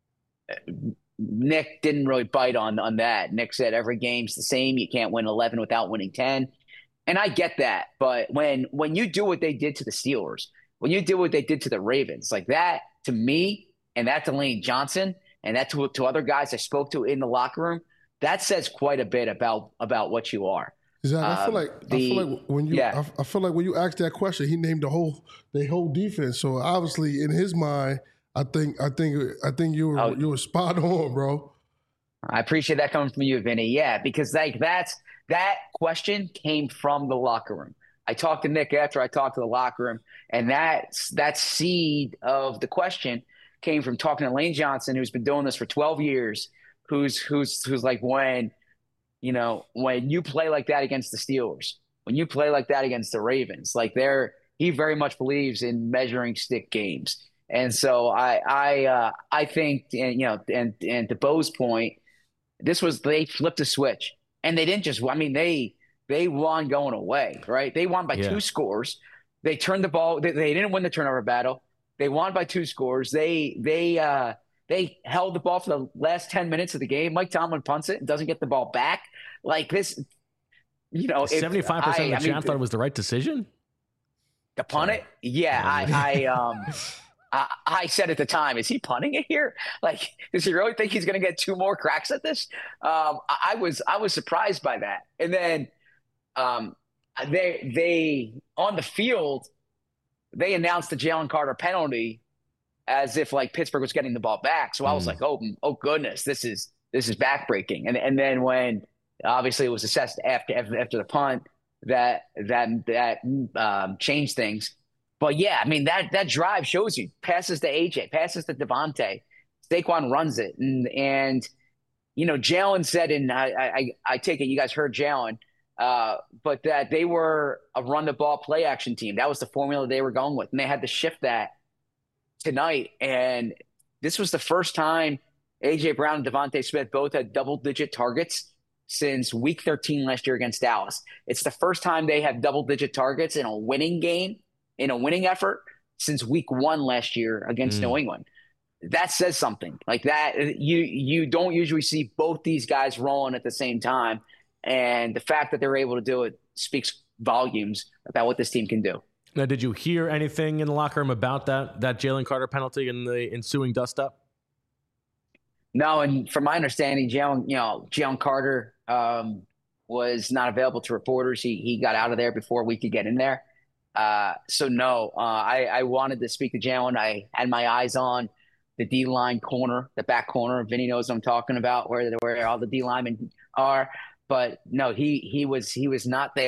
Nick didn't really bite on that. Nick said every game's the same. You can't win 11 without winning 10. And I get that. But when you do what they did to the Steelers, when you do what they did to the Ravens, like that to me, and that to Lane Johnson, and that to other guys I spoke to in the locker room, that says quite a bit about what you are. Exactly. I feel like when you asked that question, he named the whole defense. So obviously in his mind, I think you were spot on, bro. I appreciate that coming from you, Vinny. Yeah, because like that question came from the locker room. I talked to Nick after I talked to the locker room, and that seed of the question came from talking to Lane Johnson, who's been doing this for 12 years, who's like, when you play like that against the Steelers, when you play like that against the Ravens, like he very much believes in measuring stick games. And so I think, and to Bo's point, they flipped a switch, and they didn't just, they won going away, right? They won by 2 scores. They turned the ball. They didn't win the turnover battle. They won by 2 scores. They held the ball for the last 10 minutes of the game. Mike Tomlin punts it and doesn't get the ball back. Like this, 75% of the chance thought it was the right decision to punt it. Yeah, I said at the time, is he punting it here? Like, does he really think he's going to get 2 more cracks at this? I was surprised by that. And then they on the field, they announced the Jalen Carter penalty as if like Pittsburgh was getting the ball back. So I was like, oh goodness, this is backbreaking. And then when obviously it was assessed after the punt, that changed things. But yeah, that drive shows you passes to AJ, passes to Devontae, Saquon runs it, and Jalen said, and I take it you guys heard Jalen, but that they were a run the ball play action team. That was the formula they were going with, and they had to shift that tonight. And this was the first time AJ Brown and Devontae Smith both had double-digit targets since week 13 last year against Dallas. It's the first time they have double-digit targets in a winning game, in a winning effort, since week 1 last year against New England. That says something like that. You don't usually see both these guys rolling at the same time. And the fact that they're able to do it speaks volumes about what this team can do. Now, did you hear anything in the locker room about that Jalen Carter penalty and the ensuing dust-up? No, and from my understanding, Jalen Carter was not available to reporters. He got out of there before we could get in there. So no, I wanted to speak to Jalen. I had my eyes on the D-line corner, the back corner. Vinny knows what I'm talking about, where all the D linemen are. But no, he was not there.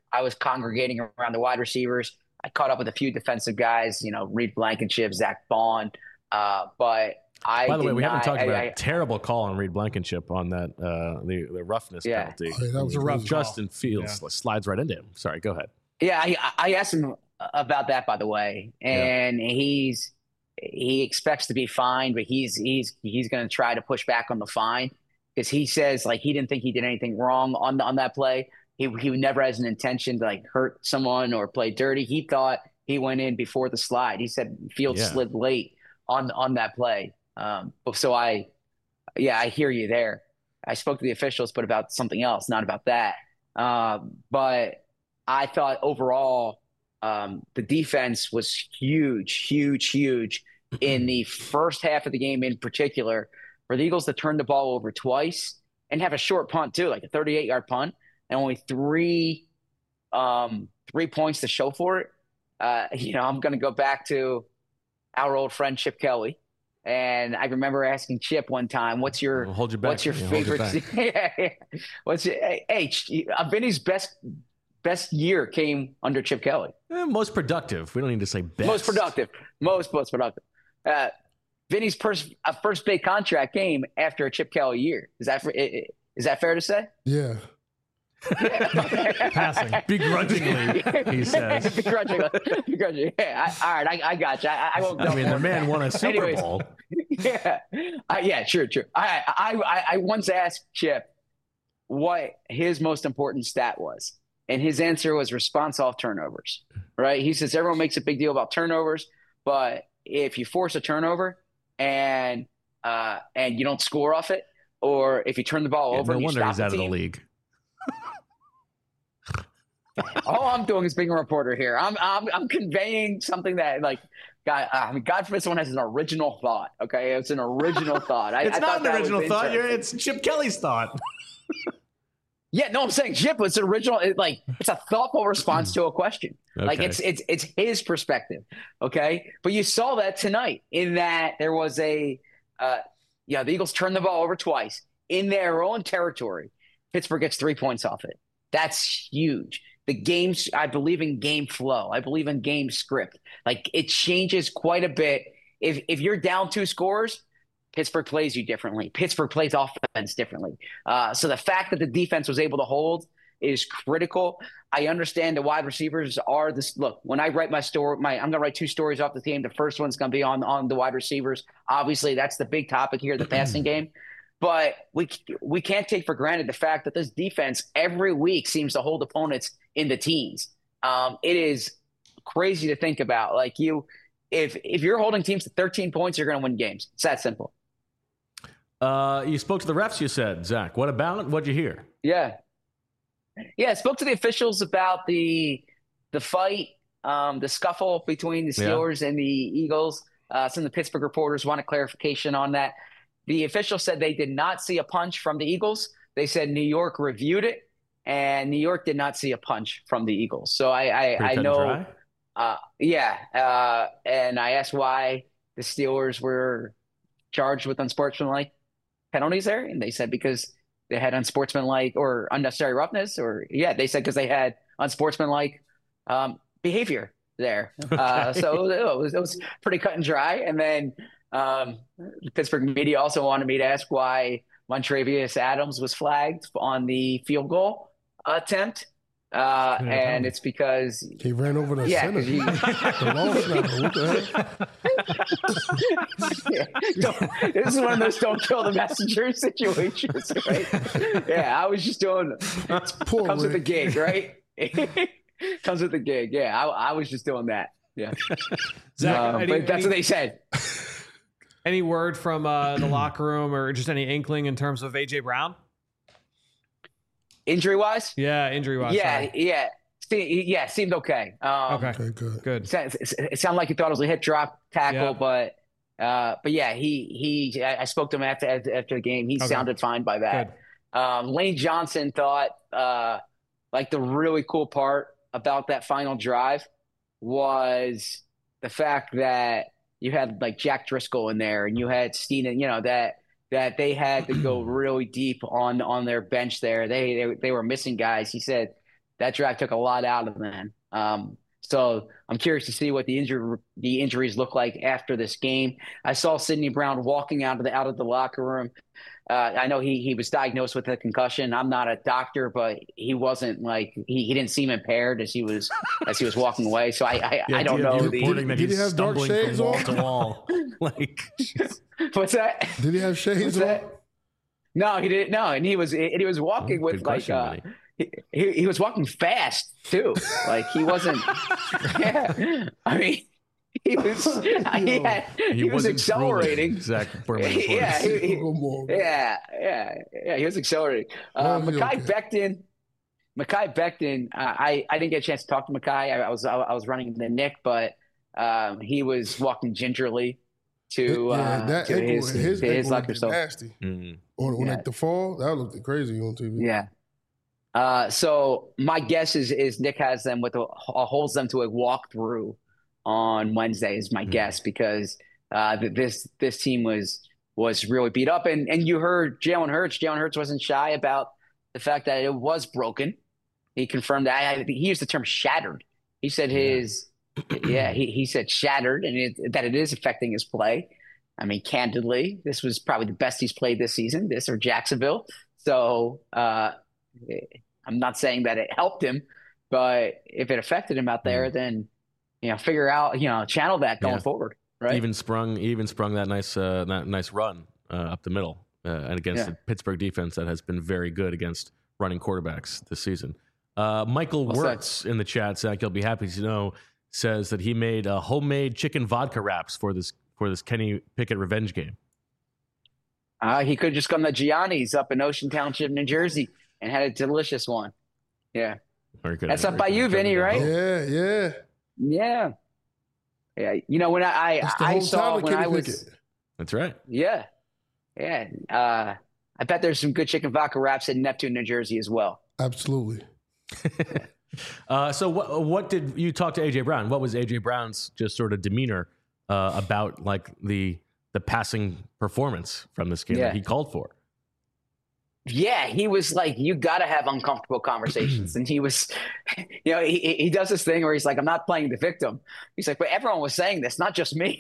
I was congregating around the wide receivers. I caught up with a few defensive guys, Reed Blankenship, Zach Bond. By the way, we haven't talked about a terrible call on Reed Blankenship on that the roughness penalty. Oh, yeah, that was a rough Justin Fields slides right into him. Sorry, go ahead. Yeah, I asked him about that, by the way, and he expects to be fined, but he's going to try to push back on the fine because he says he didn't think he did anything wrong on that play. He never has an intention to hurt someone or play dirty. He thought he went in before the slide. He said Fields slid late on that play. So I hear you there. I spoke to the officials, but about something else, not about that. But I thought overall the defense was huge in the first half of the game in particular, for the Eagles to turn the ball over twice and have a short punt too, like a 38-yard punt, and only three points to show for it. I'm going to go back to our old friend Chip Kelly. And I remember asking Chip one time, what's your favorite? Vinny's best year came under Chip Kelly. Most productive. We don't need to say best. Most productive. Most productive. Vinny's first big contract came after a Chip Kelly year. Is that fair to say? Yeah. Passing begrudgingly, he says. begrudgingly. Yeah, all right, I got you. I won't. I mean, the man won a Super Bowl. Yeah, true. I once asked Chip what his most important stat was, and his answer was response off turnovers. Right? He says everyone makes a big deal about turnovers, but if you force a turnover and you don't score off it, or if you turn the ball over, no and you wonder stop he's out the of the team, league. all I'm doing is being a reporter here. I'm conveying something that God forbid someone has an original thought. Okay, it's an original thought. It's I not thought an original thought. interesting. It's Chip Kelly's thought. Yeah, no, I'm saying Chip. It's an original. It's a thoughtful response to a question. Okay. It's his perspective. Okay, but you saw that tonight in that there was the Eagles turned the ball over twice in their own territory. Pittsburgh gets 3 points off it. That's huge. The games, I believe in game flow. I believe in game script. It changes quite a bit. If you're down 2 scores, Pittsburgh plays you differently. Pittsburgh plays offense differently. So the fact that the defense was able to hold is critical. I understand the wide receivers are this. Look, when I write my story, I'm going to write 2 stories off the team. The first one's going to be on the wide receivers. Obviously, that's the big topic here, the passing game. But we can't take for granted the fact that this defense every week seems to hold opponents in the teens. It is crazy to think about. If you're holding teams to 13 points, you're going to win games. It's that simple. You spoke to the refs, you said, Zach. What about it? What'd you hear? Yeah, I spoke to the officials about the fight, the scuffle between the Steelers and the Eagles. Some of the Pittsburgh reporters wanted clarification on that. The official said they did not see a punch from the Eagles. They said New York reviewed it, and New York did not see a punch from the Eagles. So I know, and I asked why the Steelers were charged with unsportsmanlike penalties there, and they said because they had unsportsmanlike or unnecessary roughness, they said because they had unsportsmanlike behavior there. So it was pretty cut and dry. And then the Pittsburgh media also wanted me to ask why Montravius Adams was flagged on the field goal attempt. And it's because he ran over the center. The long snapper. What the heck? This is one of those don't kill the messenger situations, right? Yeah, I was just doing comes with the gig, right? Comes with the gig. Yeah, I was just doing that. Yeah. Zach, but that's what they said. Any word from the locker room or just any inkling in terms of AJ Brown? Injury-wise? Yeah, injury-wise. Yeah. Seemed okay. Okay, good. It sounded like he thought it was a hip drop tackle, but yeah, I spoke to him after the game. He sounded fine by that. Lane Johnson thought the really cool part about that final drive was the fact that you had Jack Driscoll in there and you had Steen, that they had to go really deep on their bench there. They were missing guys. He said that drive took a lot out of them. So I'm curious to see what the injuries look like after this game. I saw Sidney Brown walking out of the locker room. I know he was diagnosed with a concussion. I'm not a doctor, but he wasn't like he didn't seem impaired as he was walking away. So I don't know. Reporting did he have dark shades from wall on? to wall. Like, what's that? Did he have shades on? No, he didn't. No, and he was walking with like he was walking fast too. Like he wasn't. Yeah, I mean. He was accelerating. Exactly. Yeah, he was accelerating. Mekhi Becton. I didn't get a chance to talk to Mekhi. I was running the Nick, but he was walking gingerly to his locker. So nasty. On like the fall, that looked crazy on TV. Yeah. So my guess is Nick has them holds them to a walkthrough on Wednesday is my guess, because this team was really beat up, and you heard Jalen Hurts. Jalen Hurts wasn't shy about the fact that it was broken. He confirmed that. He used the term shattered. He said he said shattered, and that it is affecting his play. I mean, candidly, this was probably the best he's played this season, this or Jacksonville. So I'm not saying that it helped him, but if it affected him out there, then figure out, channel that going forward, right? Even sprung that nice run up the middle and against the Pittsburgh defense that has been very good against running quarterbacks this season. Michael Wirtz in the chat, Zach, you'll be happy to know, says that he made homemade chicken vodka wraps for this Kenny Pickett revenge game. He could have just gone to Gianni's up in Ocean Township, New Jersey, and had a delicious one. Yeah, very good. That's up by you, Vinny, right? Yeah. Yeah. When I saw when I was. That's right. Yeah. Yeah. I bet there's some good chicken vodka wraps in Neptune, New Jersey as well. Absolutely. So what did you talk to AJ Brown? What was AJ Brown's just sort of demeanor about like the passing performance from this game that he called for? Yeah, he was like, you got to have uncomfortable conversations. And he was, he does this thing where he's like, I'm not playing the victim. He's like, but everyone was saying this, not just me.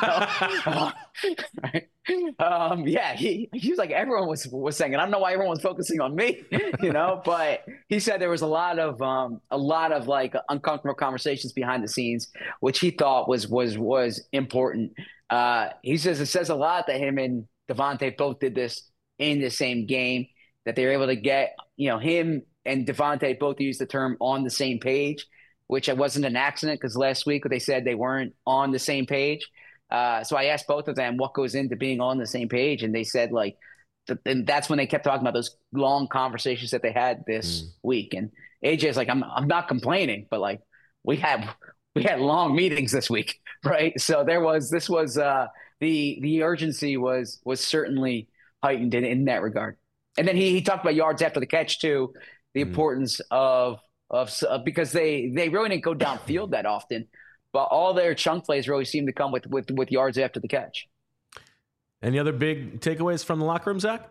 Right? He was like, everyone was saying it. I don't know why everyone was focusing on me, but he said there was a lot of like uncomfortable conversations behind the scenes, which he thought was important. He says it says a lot that him and Devontae both did this in the same game, that they were able to get, him and Devontae both used the term on the same page, which wasn't an accident, because last week they said they weren't on the same page. So I asked both of them what goes into being on the same page, and they said and that's when they kept talking about those long conversations that they had this week. And AJ's like, I'm not complaining, but like we had long meetings this week, right? So the urgency was certainly heightened in that regard. And then he talked about yards after the catch too, the importance of because they really didn't go downfield that often, but all their chunk plays really seemed to come with yards after the catch. Any other big takeaways from the locker room, Zach?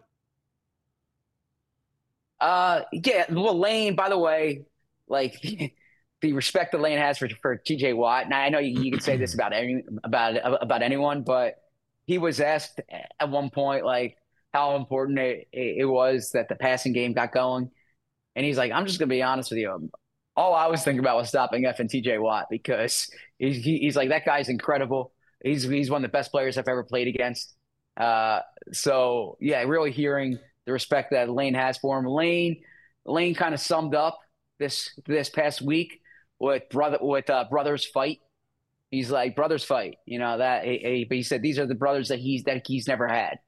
Well, Lane, by the way, like the respect that Lane has for TJ Watt. Now I know you can say this about anyone, but he was asked at one point like how important it was that the passing game got going. And he's like, I'm just going to be honest with you. All I was thinking about was stopping effing TJ Watt, because he's like, that guy's incredible. He's one of the best players I've ever played against. So yeah, really hearing the respect that Lane has for him. Lane kind of summed up this past week with brothers fight. He's like, brothers fight, but he said these are the brothers that he's never had.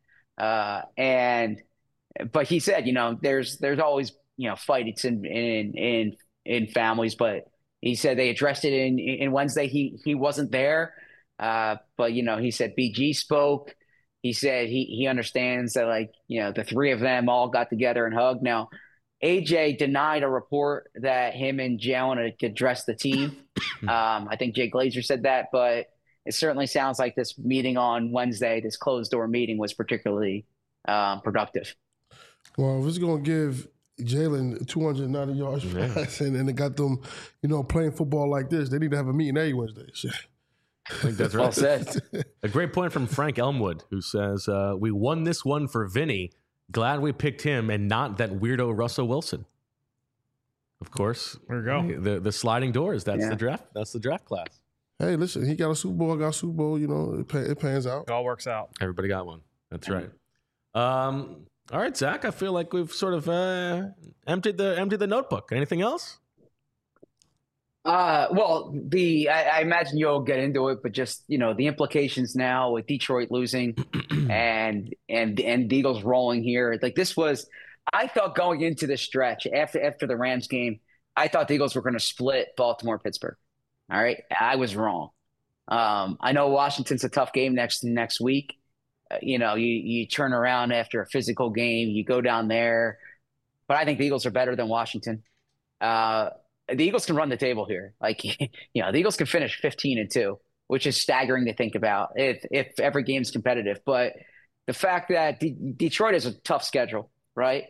But he said, there's always, fights in families, but he said they addressed it in Wednesday. He wasn't there. But he said BG spoke. He said he understands that the three of them all got together and hugged. Now, AJ denied a report that him and Jalen had addressed the team. I think Jay Glazer said that, but it certainly sounds like this meeting on Wednesday, this closed door meeting, was particularly productive. Well, if it's going to give Jalen 290 yards passing, and they got them, playing football like this. They need to have a meeting every Wednesday. I think that's right. Well said. A great point from Frank Elmwood, who says, we won this one for Vinny. Glad we picked him and not that weirdo Russell Wilson. Of course. There you go. The sliding doors. That's the draft. That's the draft class. Hey, listen, he got a Super Bowl, I got a Super Bowl, it pans out. It all works out. Everybody got one. That's right. All right, Zach, I feel like we've sort of emptied the notebook. Anything else? Well, I imagine you'll get into it, but just, the implications now with Detroit losing and the Eagles rolling here. Like I thought going into this stretch after the Rams game, I thought the Eagles were going to split Baltimore, Pittsburgh. All right. I was wrong. I know Washington's a tough game next week. You turn around after a physical game, you go down there, but I think the Eagles are better than Washington. The Eagles can run the table here. The Eagles can finish 15-2, which is staggering to think about if every game's competitive. But the fact that Detroit is a tough schedule, right?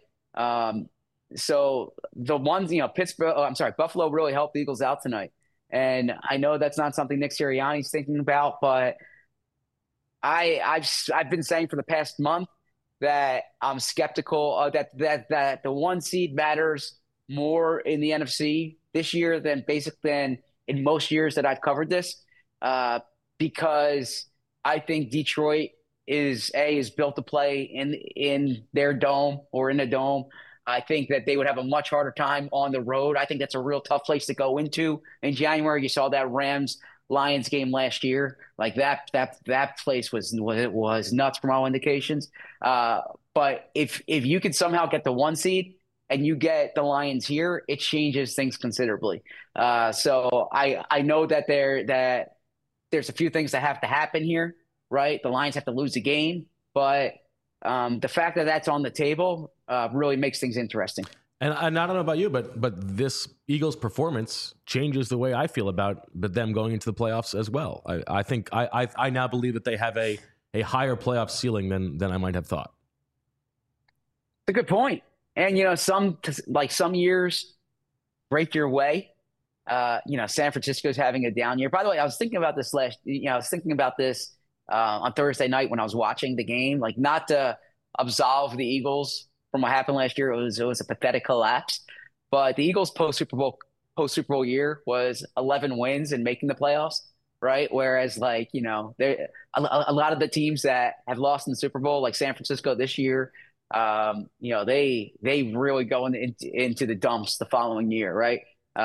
So the ones, Buffalo really helped the Eagles out tonight. And I know that's not something Nick Sirianni's thinking about, but I've been saying for the past month that I'm skeptical that the 1 seed matters more in the NFC this year than in most years that I've covered this, because I think Detroit is built to play in their dome or in a dome. I think that they would have a much harder time on the road. I think that's a real tough place to go into in January. You saw that Rams-Lions game last year. Like that place was nuts from all indications. But if you could somehow get the 1 seed and you get the Lions here, it changes things considerably. So I know that there's a few things that have to happen here, right? The Lions have to lose a game, but the fact that that's on the table really makes things interesting. And I don't know about you, but this Eagles performance changes the way I feel about them going into the playoffs as well. I think I now believe that they have a higher playoff ceiling than I might have thought. It's a good point. And some years break your way. San Francisco's having a down year. By the way, I was thinking about this on Thursday night when I was watching the game. Like, not to absolve the Eagles from what happened last year. It was a pathetic collapse. But the Eagles post Super Bowl year was 11 wins and making the playoffs, right? Whereas a lot of the teams that have lost in the Super Bowl, like San Francisco this year, they really go into the dumps the following year, right?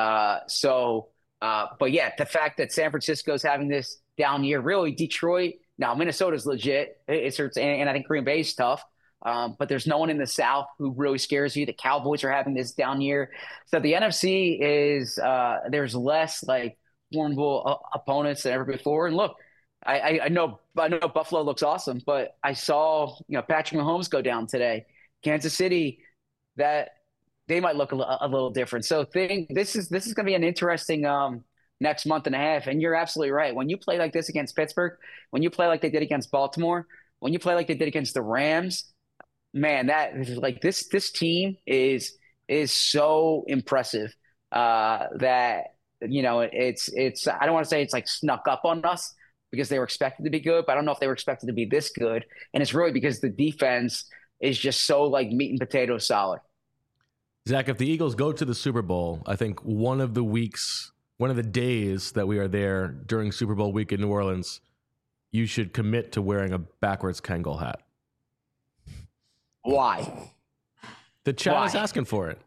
But yeah, the fact that San Francisco's having this down year, really Detroit. Now Minnesota's legit. And I think Green Bay's tough. But there's no one in the South who really scares you. The Cowboys are having this down year. So the NFC is there's less formidable opponents than ever before. And look, I know Buffalo looks awesome, but I saw Patrick Mahomes go down today. Kansas City, that they might look a little different. So this is going to be an interesting next month and a half. And you're absolutely right. When you play like this against Pittsburgh, when you play like they did against Baltimore, when you play like they did against the Rams, man, that is this team is so impressive that it's I don't want to say it's snuck up on us because they were expected to be good, but I don't know if they were expected to be this good. And it's really because the defense is just so meat and potatoes solid. Zach, if the Eagles go to the Super Bowl, I think one of the days that we are there during Super Bowl week in New Orleans, you should commit to wearing a backwards Kangol hat. Why? The chat is asking for it.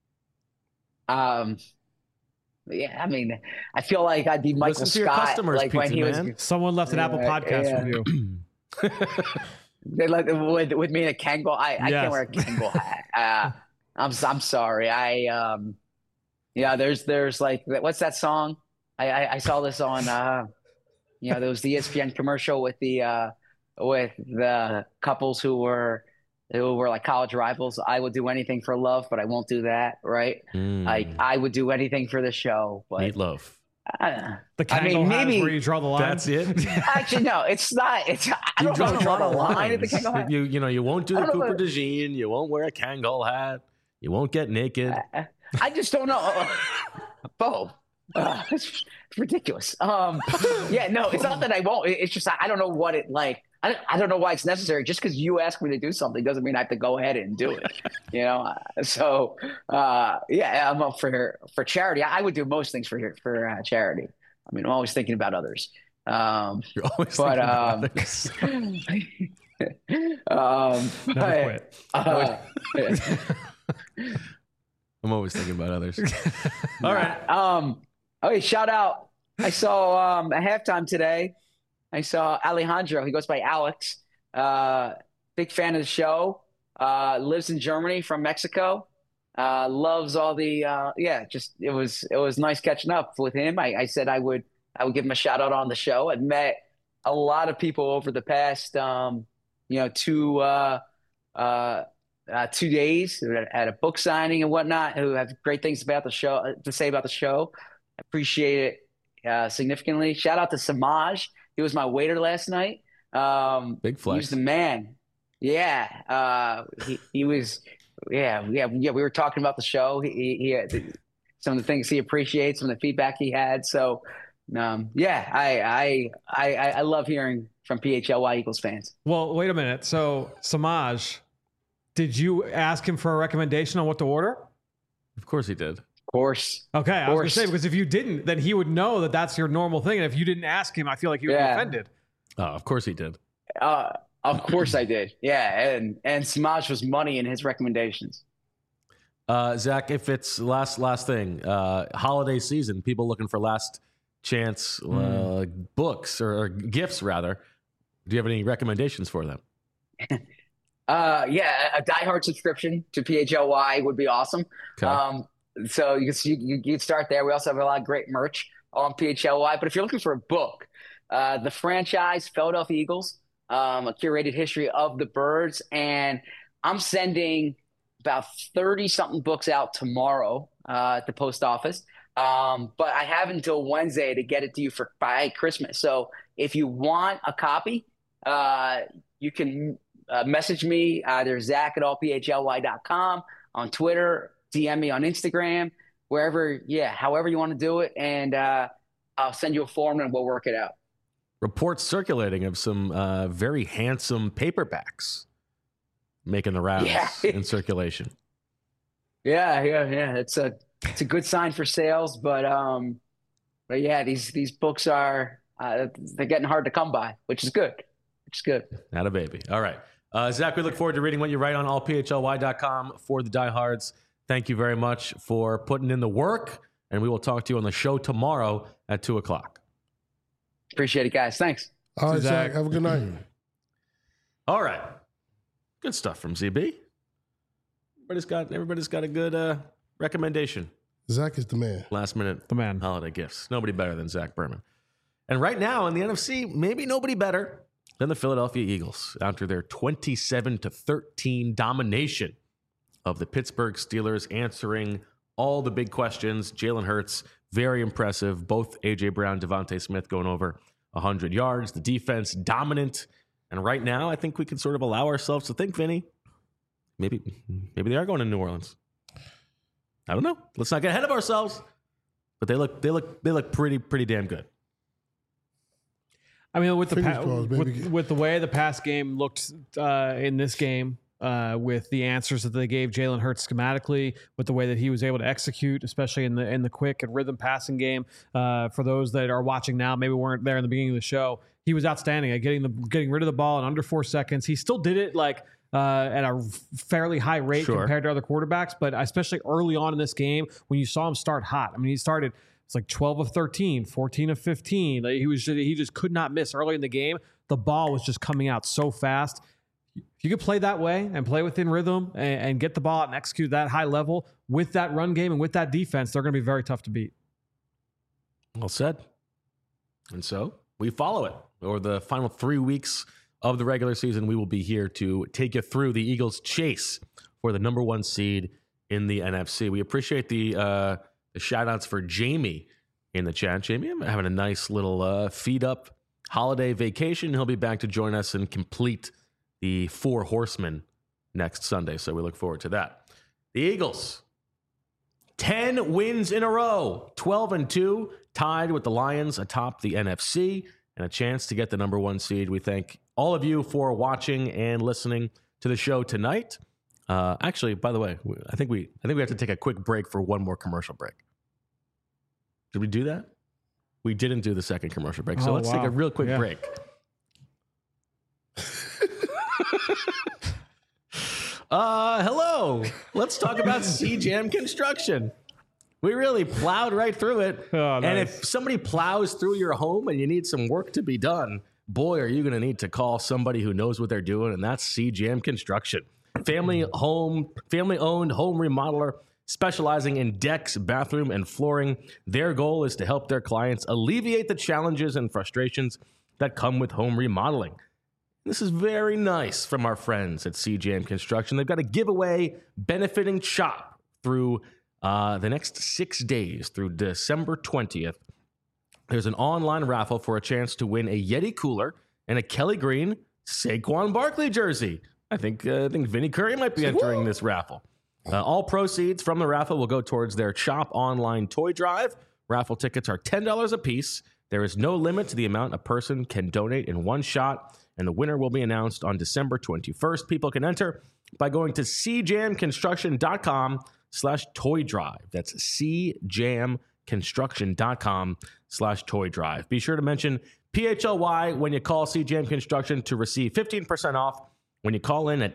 Yeah, I mean, I feel like I'd be Michael Scott, when he was. Someone left an Apple Podcast review. They with me in a Kangol. I can't wear a Kangol hat. I'm sorry. There's what's that song? I saw this on there was the ESPN commercial with the couples who were college rivals. I would do anything for love, but I won't do that. Right? I would do anything for the show. But Meatloaf. The Kangol hat is where you draw the line. That's it. Actually, no, it's not. I don't know. Draw the line at the Kangol hat. You won't do the Cooper DeJean. You won't wear a Kangol hat. You won't get naked. I just don't know. Bo, it's ridiculous. Yeah, no, it's not that I won't. It's just I don't know what it like. I don't know why it's necessary. Just because you ask me to do something doesn't mean I have to go ahead and do it. So yeah, I'm up for charity. I would do most things for charity. I mean, I'm always thinking about others. You're always thinking about others. Never quit. I'm always thinking about others. All right. Okay, shout out. I saw at halftime today. I saw Alejandro. He goes by Alex. Big fan of the show. Lives in Germany from Mexico. Loves all the it was nice catching up with him. I said I would give him a shout out on the show. I've met a lot of people over the past 2 days at a book signing and whatnot who have great things about the show to say about the show. I appreciate it significantly. Shout out to Samaj. He was my waiter last night. Big flex. He was the man. Yeah. He was. Yeah. We were talking about the show. He had some of the things he appreciates, some of the feedback he had. So, I love hearing from PHLY Eagles fans. Well, wait a minute. So, Samaj, did you ask him for a recommendation on what to order? Of course he did. Of course. Okay, I was going to say, because if you didn't, then he would know that that's your normal thing. And if you didn't ask him, I feel like he would be offended. Oh, of course he did. Of course I did. Yeah, and Samaj was money in his recommendations. Zach, if it's last thing, holiday season, people looking for last chance books or gifts, rather. Do you have any recommendations for them? A Die Hard subscription to PHLY would be awesome. Okay. So you can start there. We also have a lot of great merch on PHLY. But if you're looking for a book, the franchise Philadelphia Eagles, a curated history of the Birds, and I'm sending about 30-something books out tomorrow at the post office. But I have until Wednesday to get it to you by Christmas. So if you want a copy, you can message me either Zach@allphly.com on Twitter, DM me on Instagram, however you want to do it, and I'll send you a form and we'll work it out. Reports circulating of some very handsome paperbacks making the rounds in circulation. Yeah. It's a good sign for sales, but yeah, these books are they're getting hard to come by, which is good. Not a baby. All right. Zach, we look forward to reading what you write on allphly.com for the diehards. Thank you very much for putting in the work, and we will talk to you on the show tomorrow at 2:00. Appreciate it, guys. Thanks. All right, Zach. Have a good night. All right. Good stuff from ZB. Everybody's got a good recommendation. Zach is the man. Last minute the man. Holiday gifts. Nobody better than Zach Berman. And right now in the NFC, maybe nobody better than the Philadelphia Eagles after their 27-13 domination of the Pittsburgh Steelers, answering all the big questions. Jalen Hurts, very impressive. Both A.J. Brown, Devontae Smith going over 100 yards. The defense dominant. And right now, I think we can sort of allow ourselves to think, Vinny, maybe they are going to New Orleans. I don't know. Let's not get ahead of ourselves. But they look pretty damn good. I mean, with the way the past game looked in this game, with the answers that they gave Jalen Hurts schematically, with the way that he was able to execute, especially in the quick and rhythm passing game. For those that are watching now, maybe weren't there in the beginning of the show, he was outstanding at getting rid of the ball in under 4 seconds. He still did it at a fairly high rate compared to other quarterbacks, but especially early on in this game when you saw him start hot. I mean, he started. It's like 12 of 13, 14 of 15. He just could not miss early in the game. The ball was just coming out so fast. If you could play that way and play within rhythm and get the ball out and execute that high level with that run game and with that defense, they're going to be very tough to beat. Well said. And so we follow it. Over the final 3 weeks of the regular season, we will be here to take you through the Eagles' chase for the number 1 seed in the NFC. We appreciate the shout-outs for Jamie in the chat. Jamie, I'm having a nice little feed-up holiday vacation. He'll be back to join us and complete the 4 Horsemen next Sunday, so we look forward to that. The Eagles, 10 wins in a row, 12-2, tied with the Lions atop the NFC, and a chance to get the number 1 seed. We thank all of you for watching and listening to the show tonight. Actually, by the way, I think we have to take a quick break for one more commercial break. Did we do that? We didn't do the second commercial break, so let's take a real quick break. Hello. Let's talk about CJAM Construction. We really plowed right through it. Oh, nice. And if somebody plows through your home and you need some work to be done, boy, are you going to need to call somebody who knows what they're doing, and that's CJAM Construction. Family-owned home remodeler specializing in decks, bathroom, and flooring. Their goal is to help their clients alleviate the challenges and frustrations that come with home remodeling. This is very nice from our friends at CJAM Construction. They've got a giveaway benefiting CHOP through the next 6 days through December 20th. There's an online raffle for a chance to win a Yeti cooler and a Kelly Green Saquon Barkley jersey. I think Vinny Curry might be entering this raffle. All proceeds from the raffle will go towards their CHOP online toy drive. Raffle tickets are $10 a piece. There is no limit to the amount a person can donate in one shot, and the winner will be announced on December 21st. People can enter by going to cjamconstruction.com/toy drive. That's cjamconstruction.com/toy drive. Be sure to mention PHLY when you call CJAM Construction to receive 15% off when you call in at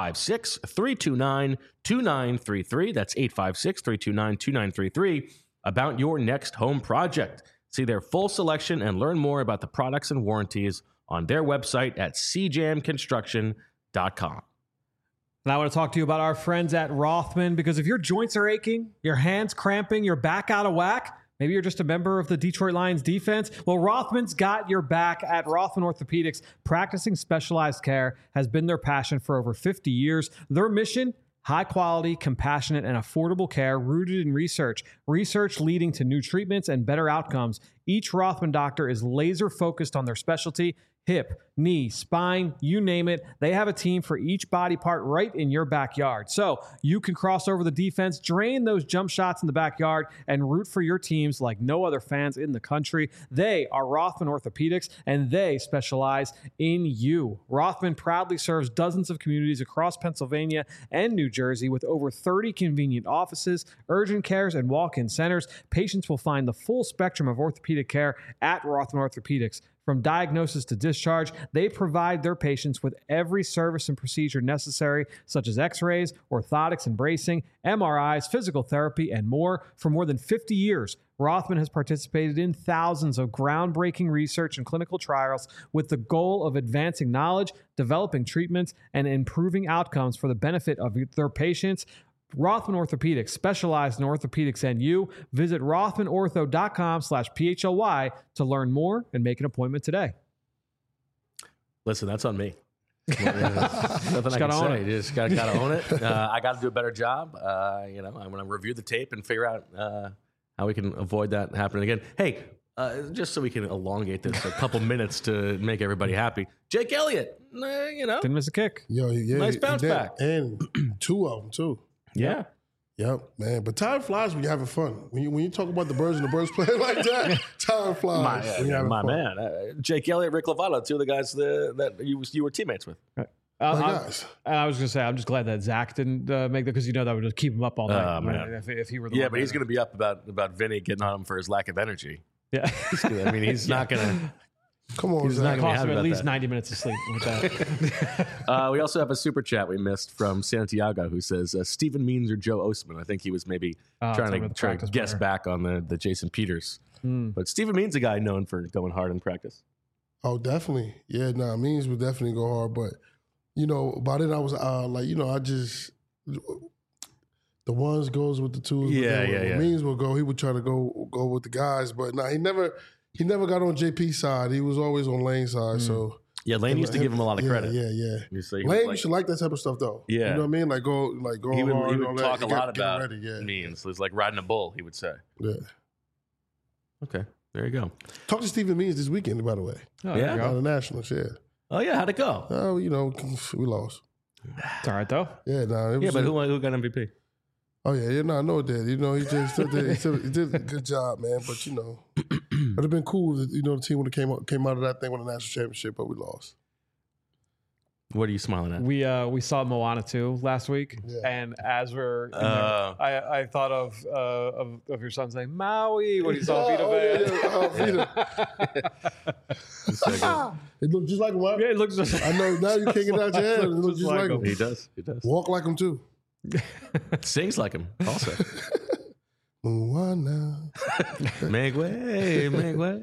856-329-2933. That's 856-329-2933 about your next home project. See their full selection and learn more about the products and warranties on their website at cjamconstruction.com. And I want to talk to you about our friends at Rothman, because if your joints are aching, your hands cramping, your back out of whack, maybe you're just a member of the Detroit Lions defense. Well, Rothman's got your back at Rothman Orthopedics. Practicing specialized care has been their passion for over 50 years. Their mission: high quality, compassionate, and affordable care rooted in research. Research leading to new treatments and better outcomes. Each Rothman doctor is laser focused on their specialty: hip, knee, spine, you name it. They have a team for each body part right in your backyard. So you can cross over the defense, drain those jump shots in the backyard, and root for your teams like no other fans in the country. They are Rothman Orthopedics, and they specialize in you. Rothman proudly serves dozens of communities across Pennsylvania and New Jersey with over 30 convenient offices, urgent cares, and walk-in centers. Patients will find the full spectrum of orthopedic care at Rothman Orthopedics. From diagnosis to discharge, they provide their patients with every service and procedure necessary, such as x-rays, orthotics and bracing, MRIs, physical therapy, and more. For more than 50 years, Rothman has participated in thousands of groundbreaking research and clinical trials with the goal of advancing knowledge, developing treatments, and improving outcomes for the benefit of their patients. Rothman Orthopedics, specialized in orthopedics and you. Visit rothmanortho.com/PHLY to learn more and make an appointment today. Listen, that's on me. Nothing I can say. You just got to own it. I got to do a better job. I'm going to review the tape and figure out how we can avoid that happening again. Hey, just so we can elongate this a couple minutes to make everybody happy. Jake Elliott, didn't miss a kick. Nice bounce back, and 2 of them too. Yeah. Yep, man. But time flies when you're having fun. When you talk about the birds and the birds playing like that, time flies. My man. Jake Elliott, Rick Lovato, 2 of the guys that you were teammates with. Right. I was going to say, I'm just glad that Zach didn't make that, because that would just keep him up all night. Man. If he were the one. But he's going to be up about Vinny getting on him for his lack of energy. Yeah. I mean, he's not going to. Come on, he's not cost him at least 90 minutes of sleep with that. We also have a super chat we missed from Santiago, who says Stephen Means or Joe Osman. I think he was maybe trying to guess back on the Jason Peters. But Stephen Means, a guy known for going hard in practice. Oh, definitely. Yeah, Means would definitely go hard. But, by then I was I just, the ones goes with the twos. Yeah. Means will go. He would try to go with the guys. But he never got on JP's side. He was always on Lane's side. So Lane used to give him a lot of credit. Yeah. Lane used to like that type of stuff though. Yeah, you know what I mean. Go he would, hard. He would talk a lot about ready, Means. It was like riding a bull. He would say. Yeah. Okay, there you go. Talk to Stephen Means this weekend, by the way. Oh, yeah, on the Nationals. Yeah. Oh yeah, how'd it go? We lost. It's all right though. Yeah, but who got MVP? Oh yeah, no, I know it did. You know, he did a good job, man. But you know, it'd have been cool if, you know, the team would have came out of that thing with a national championship, but we lost. What are you smiling at? We saw Moana 2 last week, and as we're, I thought of your son saying Maui when he saw Vita Vea. It looked just like him. Right? Yeah, it looks just. I know now you can't get out your head. It looks just like him. He does. Walk like him too. Sings like him also. Moana. Make way, make way.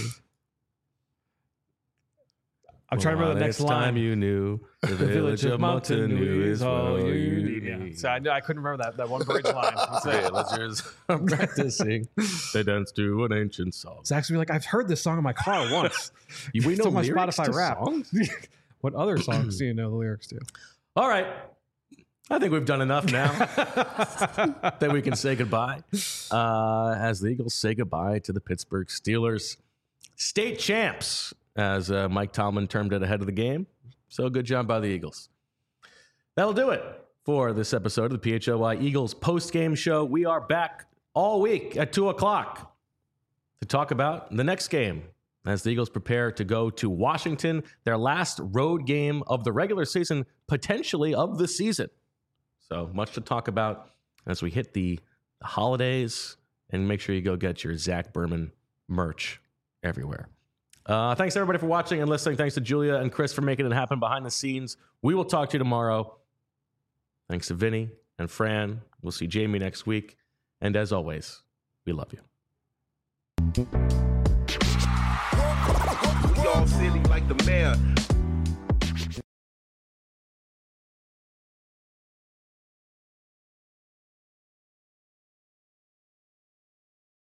I'm trying to remember the next line. Time you knew the village of Motunui is all you need. Yeah. So I couldn't remember that one bridge line. Villagers are practicing. They dance to an ancient song. It's actually like, I've heard this song in my car once. We know it's on my lyrics Spotify to rap. songs? What other songs do you know the lyrics to? All right. I think we've done enough now that we can say goodbye. As the Eagles say goodbye to the Pittsburgh Steelers. State champs, as Mike Tomlin termed it ahead of the game. So good job by the Eagles. That'll do it for this episode of the PHLY Eagles post-game show. We are back all week at 2 o'clock to talk about the next game as the Eagles prepare to go to Washington, their last road game of the regular season, potentially of the season. So much to talk about as we hit the holidays, and make sure you go get your Zach Berman merch everywhere. Thanks everybody for watching and listening. Thanks to Julia and Chris for making it happen behind the scenes. We will talk to you tomorrow. Thanks to Vinny and Fran. We'll see Jamie next week. And as always, we love you. We all silly like the mayor.